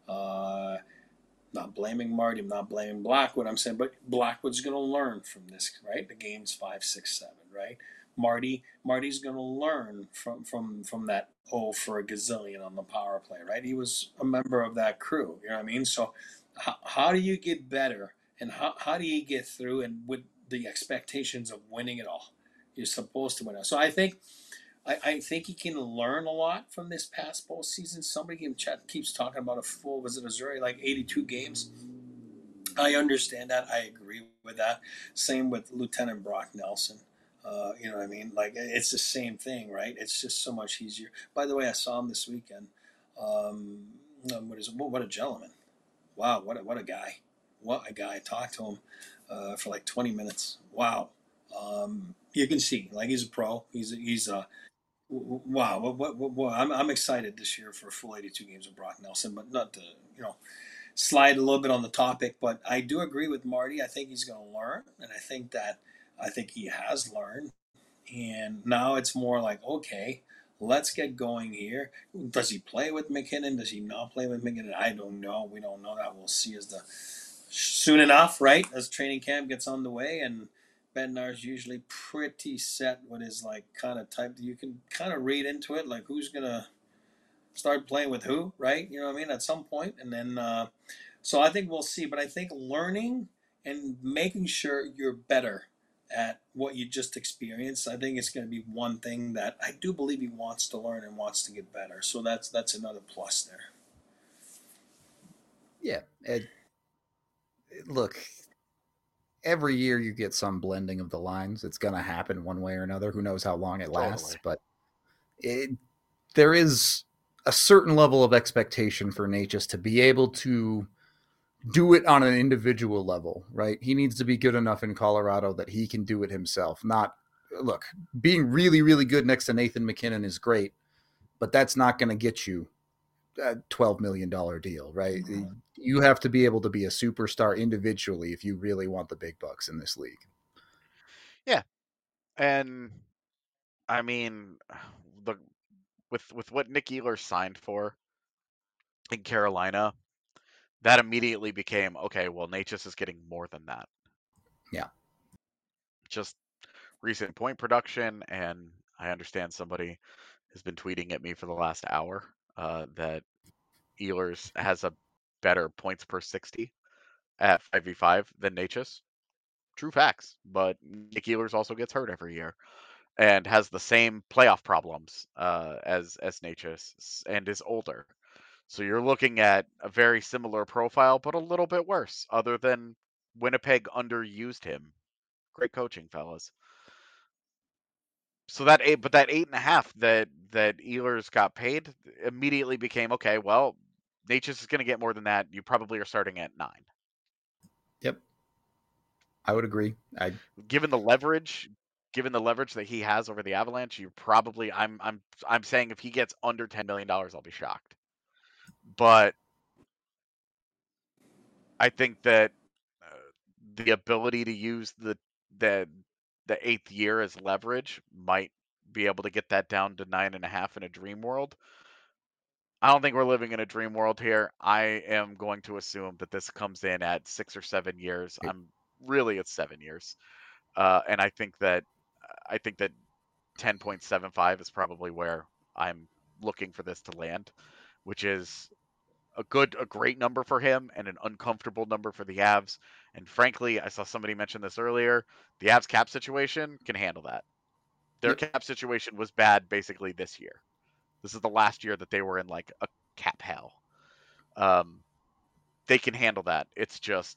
Uh, Not blaming Marty, I'm not blaming Blackwood. I'm saying, but Blackwood's going to learn from this, right? The game's five, six, seven, right? Marty, Marty's going to learn from from from that oh for a gazillion on the power play, right? He was a member of that crew, you know what I mean? So, how, how do you get better, and how how do you get through? And with the expectations of winning it all. You're supposed to win it. So I think I, I think he can learn a lot from this past postseason. Somebody in chat keeps talking about a full, was it Missouri, like eighty-two games? I understand that. I agree with that. Same with Lieutenant Brock Nelson. Uh, you know what I mean? Like, it's the same thing, right? It's just so much easier. By the way, I saw him this weekend. Um, what is what a gentleman. Wow, what a, what a guy. What a guy. I talked to him uh, for like twenty minutes. Wow. Um, you can see, like, he's a pro. He's a, he's a wow. What, what, what, what, I'm, I'm excited this year for a full eighty-two games of Brock Nelson, but not to, you know, slide a little bit on the topic, but I do agree with Marty. I think he's going to learn, and I think that I think he has learned. And now it's more like, okay, let's get going here. Does he play with MacKinnon? Does he not play with MacKinnon? I don't know. We don't know that. We'll see as the soon enough, right? As training camp gets on the way, and Bednar's usually pretty set with his like kind of type. You can kind of read into it, like who's gonna start playing with who, right? You know what I mean? At some point, and then uh, so I think we'll see. But I think learning and making sure you're better at what you just experienced, I think it's going to be one thing that I do believe he wants to learn and wants to get better. So that's that's another plus there. Yeah. It, it, look, every year you get some blending of the lines. It's going to happen one way or another. Who knows how long it lasts? Totally. But it, there is a certain level of expectation for Necas to be able to do it on an individual level, right? He needs to be good enough in Colorado that he can do it himself. Not, look, being really, really good next to Nathan MacKinnon is great, but that's not going to get you a twelve million dollars deal, right? Mm-hmm. You have to be able to be a superstar individually if you really want the big bucks in this league. Yeah. And I mean, the with with what Nick Ehlers signed for in Carolina, that immediately became, okay, well, Necas is getting more than that. Yeah. Just recent point production, and I understand somebody has been tweeting at me for the last hour uh, that Ehlers has a better points per sixty at five v five than Necas. True facts, but Nick Ehlers also gets hurt every year and has the same playoff problems uh, as as Necas and is older. So you're looking at a very similar profile, but a little bit worse, other than Winnipeg underused him. Great coaching, fellas. So that eight, but that eight and a half that that Ehlers got paid immediately became, okay, well, Necas is going to get more than that. You probably are starting at nine. Yep. I would agree. I given the leverage, given the leverage that he has over the Avalanche, you probably I'm I'm I'm saying if he gets under ten million dollars, I'll be shocked. But I think that uh, the ability to use the the the eighth year as leverage might be able to get that down to nine and a half in a dream world. I don't think we're living in a dream world here. I am going to assume that this comes in at six or seven years. I'm really at seven years, uh, and I think that I think that ten point seven five is probably where I'm looking for this to land, which is a good, a great number for him and an uncomfortable number for the Avs. And frankly, I saw somebody mention this earlier. The Avs cap situation can handle that. Their yep. cap situation was bad basically this year. This is the last year that they were in like a cap hell. Um, they can handle that. It's just,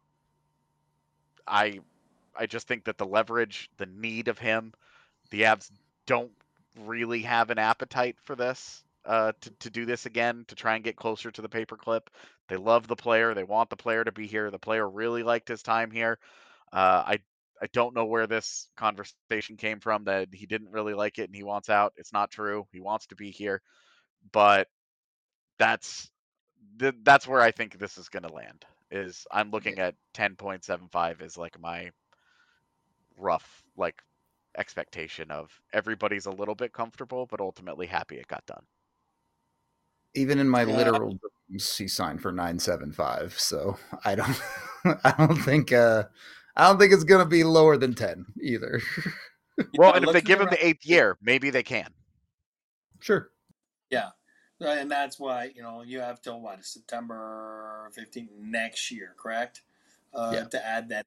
I, I just think that the leverage, the need of him, the Avs don't really have an appetite for this, uh, to, to do this again, to try and get closer to the paperclip. They love the player. They want the player to be here. The player really liked his time here. Uh, I I don't know where this conversation came from that he didn't really like it and he wants out. It's not true. He wants to be here, but that's th- that's where I think this is going to land. Is I'm looking at ten point seven five as like my rough like expectation of everybody's a little bit comfortable, but ultimately happy it got done. Even in my yeah. literal dreams, he signed for nine seven five. So I don't, I don't think, uh, I don't think it's gonna be lower than ten either. Well, yeah, and if they give him the eighth year, maybe they can. Sure. Yeah, and that's why you know you have till what September fifteenth next year, correct? Uh, yeah. To add that,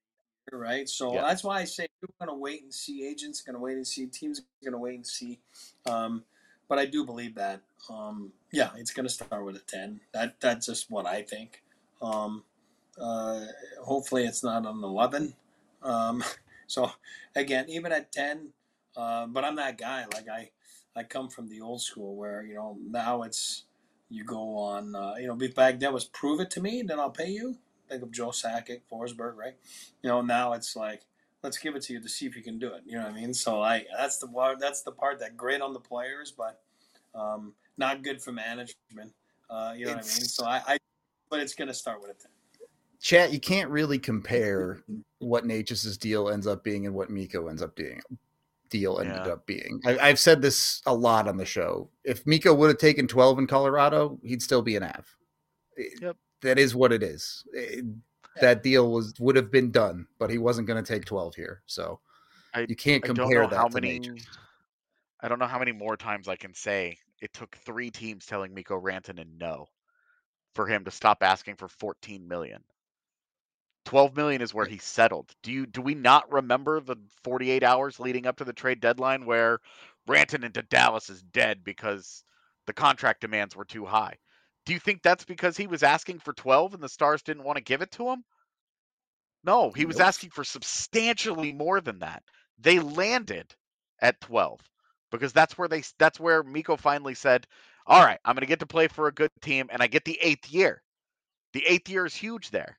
right? So Yeah. that's why I say we're going to wait and see. Agents are going to wait and see. Teams are going to wait and see. Um, but I do believe that, um, yeah, it's going to start with a ten. That That's just what I think. Um, uh, hopefully it's not an eleven. Um, so, again, even at ten, uh, but I'm that guy. Like, I, I come from the old school where, you know, now it's you go on, uh, you know, back then was prove it to me, then I'll pay you. Think of Joe Sakic, Forsberg, right? You know, now it's like, let's give it to you to see if you can do it. You know what I mean? So I that's the that's the part that great on the players, but um, not good for management. Uh, you know it's, what I mean? So I, I but it's going to start with a ten. Chat, you can't really compare what Necas's deal ends up being and what Mikko ends up being. Deal ended yeah. up being. I, I've said this a lot on the show. If Mikko would have taken twelve in Colorado, he'd still be an A V. Yep. That is what it is. It, that deal was would have been done, but he wasn't going to take twelve here. So I, you can't compare I don't know that how to many. Necas. I don't know how many more times I can say it took three teams telling Mikko Rantanen no for him to stop asking for fourteen million. twelve million is where he settled. Do you do we not remember the forty-eight hours leading up to the trade deadline where Rantanen to Dallas is dead because the contract demands were too high? Do you think that's because he was asking for twelve and the Stars didn't want to give it to him? No, he was nope. asking for substantially more than that. They landed at twelve because that's where they that's where Mikko finally said, "All right, I'm going to get to play for a good team and I get the eighth year." The eighth year is huge there.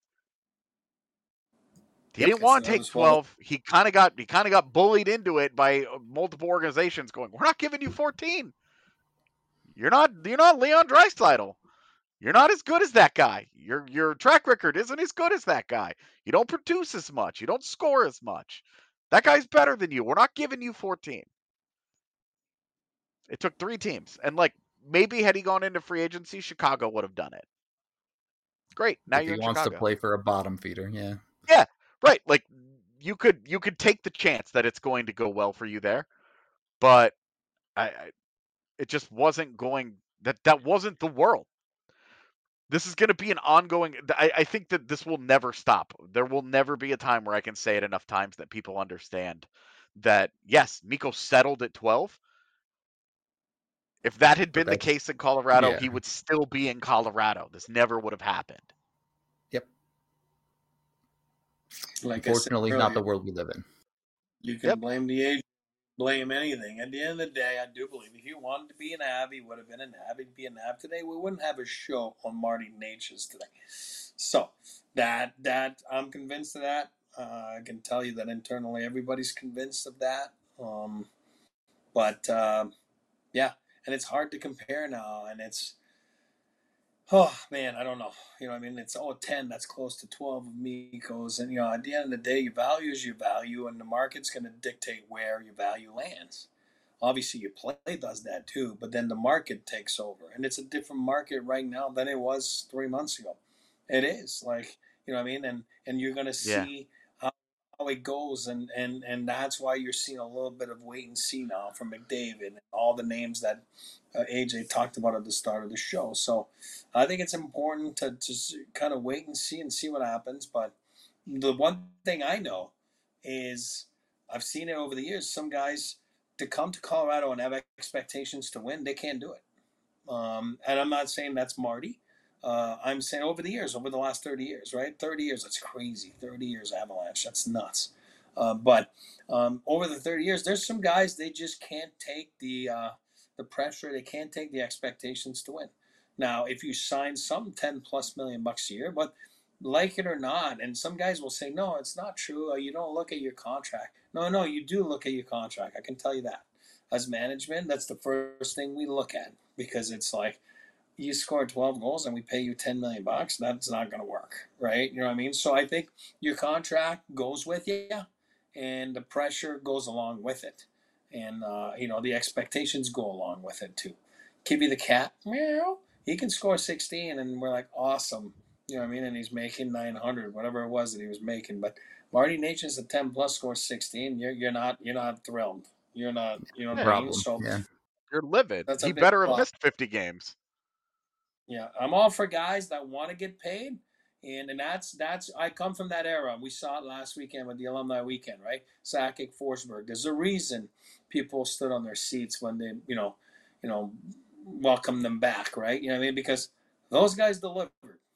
He yep, didn't want to take twelve. He kind of got he kind of got bullied into it by multiple organizations going, "We're not giving you fourteen. You're not you're not Leon Draisaitl. You're not as good as that guy. Your your track record isn't as good as that guy. You don't produce as much. You don't score as much. That guy's better than you. We're not giving you fourteen." It took three teams. And like maybe had he gone into free agency, Chicago would have done it. Great. Now if you're he in wants Chicago. to play for a bottom feeder, yeah. Yeah, right. Like you could you could take the chance that it's going to go well for you there. But I, I it just wasn't going that that wasn't the world. This is going to be an ongoing. I, I think that this will never stop. There will never be a time where I can say it enough times that people understand that, yes, Mikko settled at twelve. If that had been the case in Colorado, yeah. he would still be in Colorado. This never would have happened. Yep. Like Unfortunately, not the world we live in. You can yep. blame the agent, blame anything. At the end of the day, I do believe if he wanted to be an A V, he would have been an A V. He'd be an A V today. We wouldn't have a show on Marty Necas today. So that that I'm convinced of that. Uh, I can tell you that internally, everybody's convinced of that. Um, but uh, yeah, and it's hard to compare now, and it's. Oh, man, I don't know. You know, I mean, it's oh, ten, that's close to twelve of Mikko's. And, you know, at the end of the day, your value is your value, and the market's going to dictate where your value lands. Obviously, your play does that too, but then the market takes over. And it's a different market right now than it was three months ago. It is. Like, you know what I mean? And and you're going to see yeah. how, how it goes, and, and, and that's why you're seeing a little bit of wait and see now from McDavid and all the names that uh, A J talked about at the start of the show. So I think it's important to just kind of wait and see and see what happens. But the one thing I know is I've seen it over the years. Some guys, to come to Colorado and have expectations to win, they can't do it. Um, and I'm not saying that's Marty. Uh, I'm saying over the years, over the last thirty years, right? thirty years, that's crazy. thirty years Avalanche, that's nuts. Uh, but um, over the thirty years, there's some guys, they just can't take the uh, the pressure. They can't take the expectations to win. Now, if you sign some ten plus million bucks a year, but like it or not, and some guys will say, no, it's not true. You don't look at your contract. No, no, you do look at your contract. I can tell you that. As management, that's the first thing we look at, because it's like, you score twelve goals and we pay you ten million bucks. That's not going to work, right? You know what I mean? So I think your contract goes with you, and the pressure goes along with it. And, uh, you know, the expectations go along with it too. Kibby the Cat, meow, he can score sixteen, and we're like, awesome. You know what I mean? And he's making nine hundred, whatever it was that he was making. But Marty Necas at ten plus scores sixteen. You're you're not you're not thrilled. You're not, you know what I mean? So yeah. You're livid. He better have missed fifty games. Yeah, I'm all for guys that want to get paid. And and that's that's I come from that era. We saw it last weekend with the alumni weekend, right? Sakic, Forsberg. There's a reason people stood on their seats when they, you know, you know, welcomed them back, right? You know what I mean? Because those guys delivered.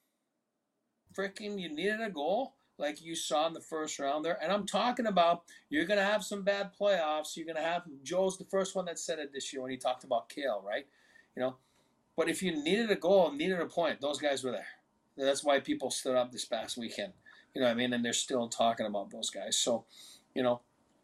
Freaking, you needed a goal like you saw in the first round there. And I'm talking about you're going to have some bad playoffs. You're going to have Joe's the first one that said it this year when he talked about Kale, right? You know, but if you needed a goal, needed a point, those guys were there. That's why people stood up this past weekend. You know what I mean? And they're still talking about those guys. So, you know,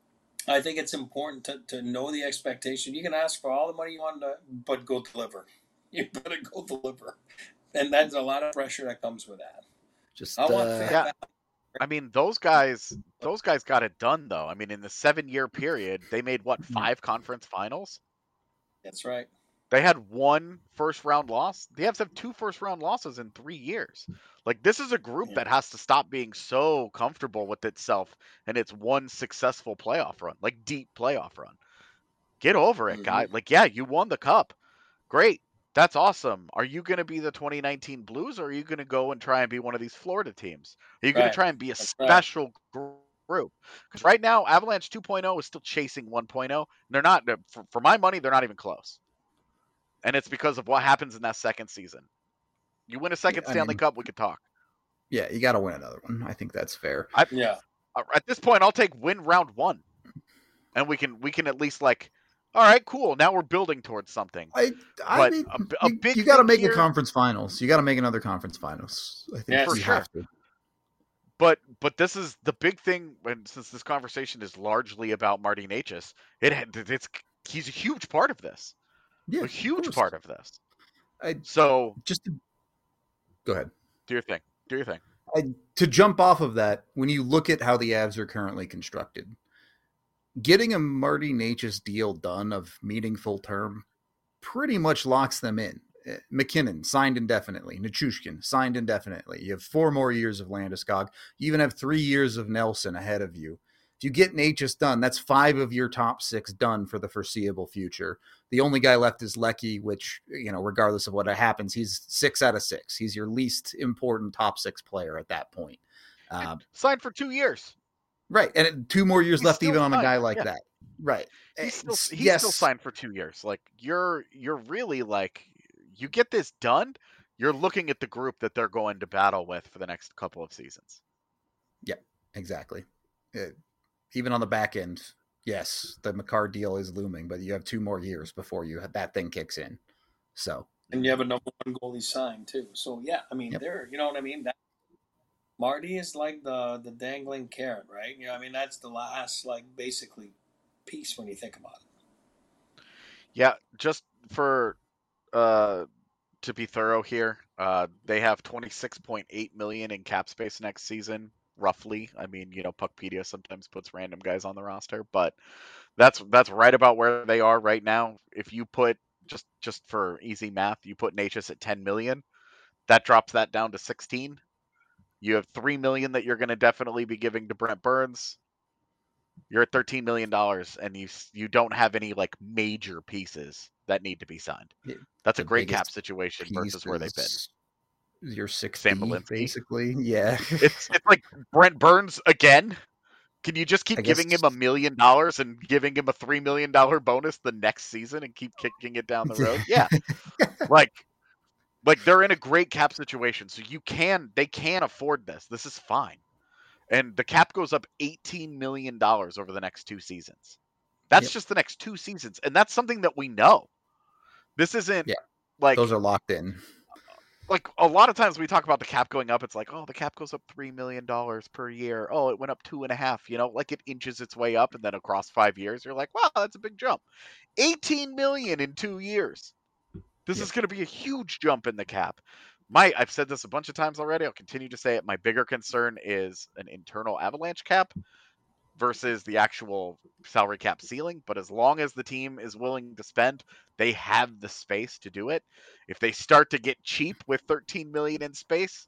I think it's important to, to know the expectation. You can ask for all the money you want, to, but go deliver. You better go deliver. And that's a lot of pressure that comes with that. Just I want uh, fans Yeah. back. I mean, those guys, those guys got it done though. I mean, in the seven-year period, they made what, five conference finals? That's right. They had one first-round loss. The Avs have two first-round losses in three years. Like, this is a group Yeah. that has to stop being so comfortable with itself and its one successful playoff run, like deep playoff run. Get over it, Mhm. guy. Like, yeah, you won the cup. Great. That's awesome. Are you going to be the twenty nineteen Blues, or are you going to go and try and be one of these Florida teams? Are you going Right. to try and be a That's right. special group? Because right now, Avalanche two point oh is still chasing one point oh. And they're not, for, for my money, they're not even close. And it's because of what happens in that second season. You win a second I Stanley mean, Cup, we could talk. yeah, you got to win another one. I think that's fair. I, Yeah. At this point, I'll take win round one, and we can we can at least like, all right, cool. Now we're building towards something. I, I But mean, a, a you, big you got to thing make here, a conference finals. You got to make another conference finals. I think Yes. For you sure. have to. But but this is the big thing, and since this conversation is largely about Marty Necas, it it's he's a huge part of this. Yeah, A of huge course. part of this. I So just to, go ahead. do your thing. Do your thing. I, to jump off of that, when you look at how the Avs are currently constructed, getting a Marty Necas deal done of meaningful term pretty much locks them in. McKinnon signed indefinitely. Nichushkin signed indefinitely. You have four more years of Landeskog. You even have three years of Nelson ahead of you. If you get Necas done, that's five of your top six done for the foreseeable future. The only guy left is Lecky, which, you know, regardless of what happens, he's six out of six. He's your least important top six player at that point. Uh, Signed for two years. right. And it, two more years He's left still even on a signed. guy like Yeah. that. Right. He's still It's- he's yes. still signed for two years. Like you're you're really like you get this done, you're looking at the group that they're going to battle with for the next couple of seasons. Yep, exactly. Uh, even on the back end, yes, the McCarr deal is looming, but you have two more years before you that thing kicks in. So, And you have a number one goalie signed too. So yeah, I mean, Yep. they're you know what I mean. That, Marty is like the the dangling carrot, right? You know, I mean, that's the last like basically piece when you think about it. Yeah, just for uh to be thorough here, uh they have twenty-six point eight million in cap space next season, roughly. I mean, you know, Puckpedia sometimes puts random guys on the roster, but that's that's right about where they are right now. If you put just just for easy math, you put Necas at ten million, that drops that down to sixteen. You have three million that you're going to definitely be giving to Brent Burns. You're at thirteen million dollars, and you you don't have any like major pieces that need to be signed. Yeah, That's a the great cap biggest situation piece versus where they've been. is Your six Sam D, Belinsky. basically. Yeah. It's it's like Brent Burns again. Can you just keep I guess- giving him a million dollars and giving him a three million dollar bonus the next season and keep kicking it down the road? Yeah, like like they're in a great cap situation, so you can they can afford this. This is fine. And the cap goes up eighteen million dollars over the next two seasons. That's Yep. just the next two seasons. And that's something that we know. This isn't Yeah. like Those are locked in. like a lot of times we talk about the cap going up. It's like, oh, the cap goes up three million dollars per year. Oh, it went up two and a half, you know, like it inches its way up. And then across five years, you're like, wow, that's a big jump. eighteen million in two years. This Yep. is going to be a huge jump in the cap. My, I've said this a bunch of times already. I'll continue to say it. My bigger concern is an internal Avalanche cap versus the actual salary cap ceiling. But as long as the team is willing to spend, they have the space to do it. If they start to get cheap with thirteen million in space,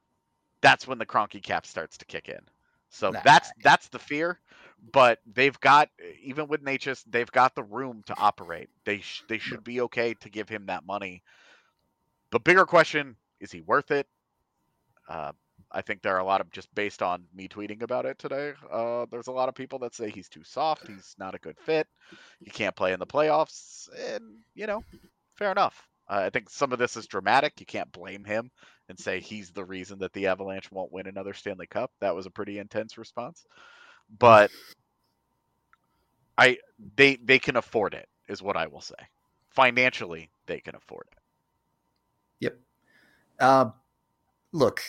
that's when the Kroenke cap starts to kick in. So Nah. that's that's the fear. But they've got, even with Necas, they've got the room to operate. They sh- they should be okay to give him that money. The bigger question, is he worth it? Uh, I think there are a lot of, just based on me tweeting about it today, uh, there's a lot of people that say he's too soft, he's not a good fit, he can't play in the playoffs, and, you know, fair enough. Uh, I think some of this is dramatic. You can't blame him and say he's the reason that the Avalanche won't win another Stanley Cup. That was a pretty intense response. But I they they can afford it, is what I will say. Financially, they can afford it. Yep. Uh, look,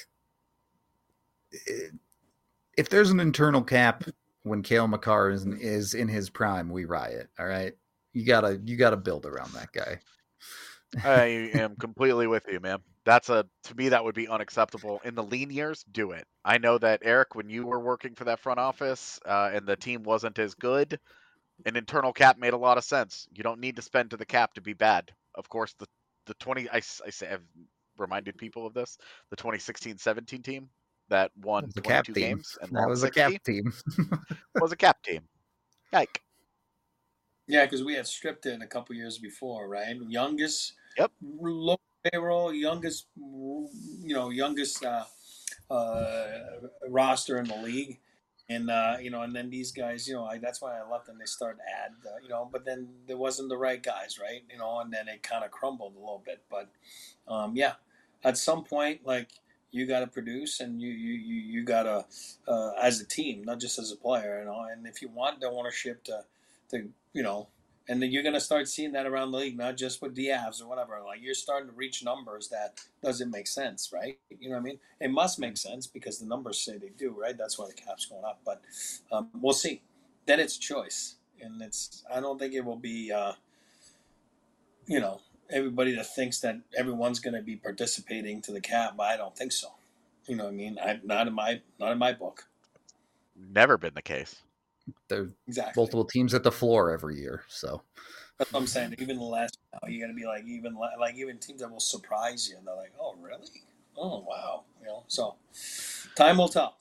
if there's an internal cap when Cale Makar is in, is in his prime, we riot. All right, you gotta you gotta build around that guy. I am completely with you, man. That's a to me that would be unacceptable. In the lean years, do it. I know that, Eric, when you were working for that front office uh, and the team wasn't as good, an internal cap made a lot of sense. You don't need to spend to the cap to be bad. Of course, the the twenty I, I say I've reminded people of this. The twenty sixteen seventeen team that won That was a twenty-two cap team. games and That lost was a sixty cap team. was a cap team. Yike. Yeah, because we had stripped it a couple years before, right? Youngest, Yep. low payroll, youngest, you know, youngest uh, uh, roster in the league, and uh, you know, and then these guys, you know, I, that's why I left them. They started to add, uh, you know, but then there wasn't the right guys, right? You know, and then it kind of crumbled a little bit. But um, yeah, at some point, like you got to produce, and you you you, you got to uh, as a team, not just as a player, you know. And if you want the ownership to to you know, and then you're going to start seeing that around the league, not just with the Avs or whatever. Like you're starting to reach numbers that doesn't make sense, right? You know what I mean? It must make sense because the numbers say they do, right? That's why the cap's going up. But um, we'll see. Then it's choice, and it's. I don't think it will be, uh, you know, everybody that thinks that everyone's going to be participating to the cap. I don't think so. You know what I mean? I not in my not in my book. Never been the case. There's Exactly. multiple teams at the floor every year, so that's what I'm saying. Even less now, you're gonna be like even like even teams that will surprise you, and they're like, "Oh, really? Oh, wow!" You know. So time will tell.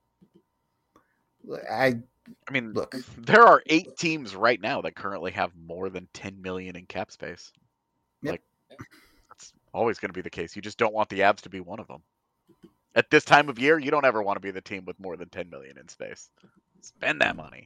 I I mean, look. There are eight teams right now that currently have more than ten million in cap space. Yep. Like that's always going to be the case. You just don't want the Avs to be one of them. At this time of year, you don't ever want to be the team with more than ten million in space. Spend that money.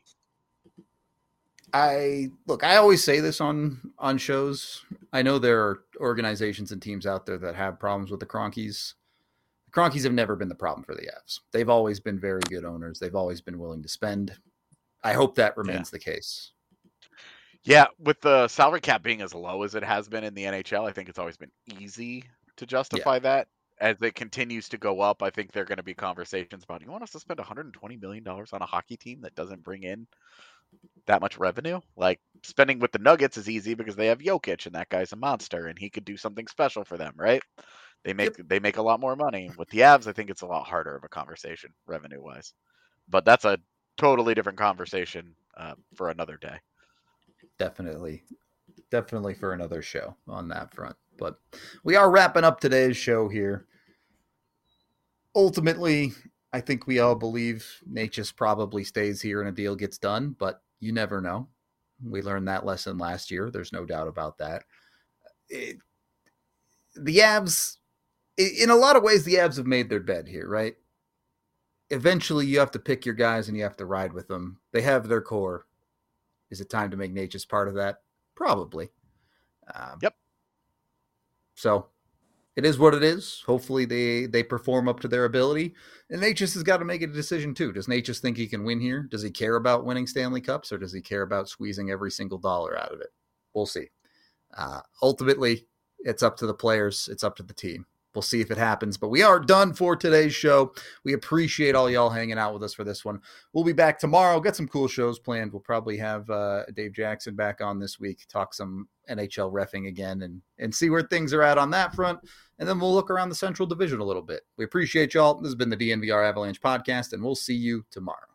I look, I always say this on on shows. I know there are organizations and teams out there that have problems with the Cronkies. The Cronkies have never been the problem for the Avs. They've always been very good owners. They've always been willing to spend. I hope that remains yeah. the case. Yeah, with the salary cap being as low as it has been in the N H L, I think it's always been easy to justify yeah. that. As it continues to go up, I think there are going to be conversations about, you want us to spend one hundred twenty million dollars on a hockey team that doesn't bring in that much revenue? Like, spending with the Nuggets is easy because they have Jokic, and that guy's a monster, and he could do something special for them, right? They make yep. they make a lot more money. With the Avs, I think it's a lot harder of a conversation, revenue-wise. But that's a totally different conversation uh, for another day. Definitely. Definitely for another show on that front. But we are wrapping up today's show here. Ultimately, I think we all believe Necas probably stays here and a deal gets done, but you never know. We learned that lesson last year. There's no doubt about that. It, the Avs, in a lot of ways, the Avs have made their bed here, right? Eventually, you have to pick your guys and you have to ride with them. They have their core. Is it time to make Necas part of that? Probably. Um, yep. So it is what it is. Hopefully they, they perform up to their ability. And Necas has got to make a decision too. Does Necas think he can win here? Does he care about winning Stanley Cups, or does he care about squeezing every single dollar out of it? We'll see. Uh, ultimately, it's up to the players. It's up to the team. We'll see if it happens. But we are done for today's show. We appreciate all y'all hanging out with us for this one. We'll be back tomorrow. Got some cool shows planned. We'll probably have uh, Dave Jackson back on this week, talk some N H L reffing again, and, and see where things are at on that front. And then we'll look around the Central Division a little bit. We appreciate y'all. This has been the D N V R Avalanche podcast, and we'll see you tomorrow.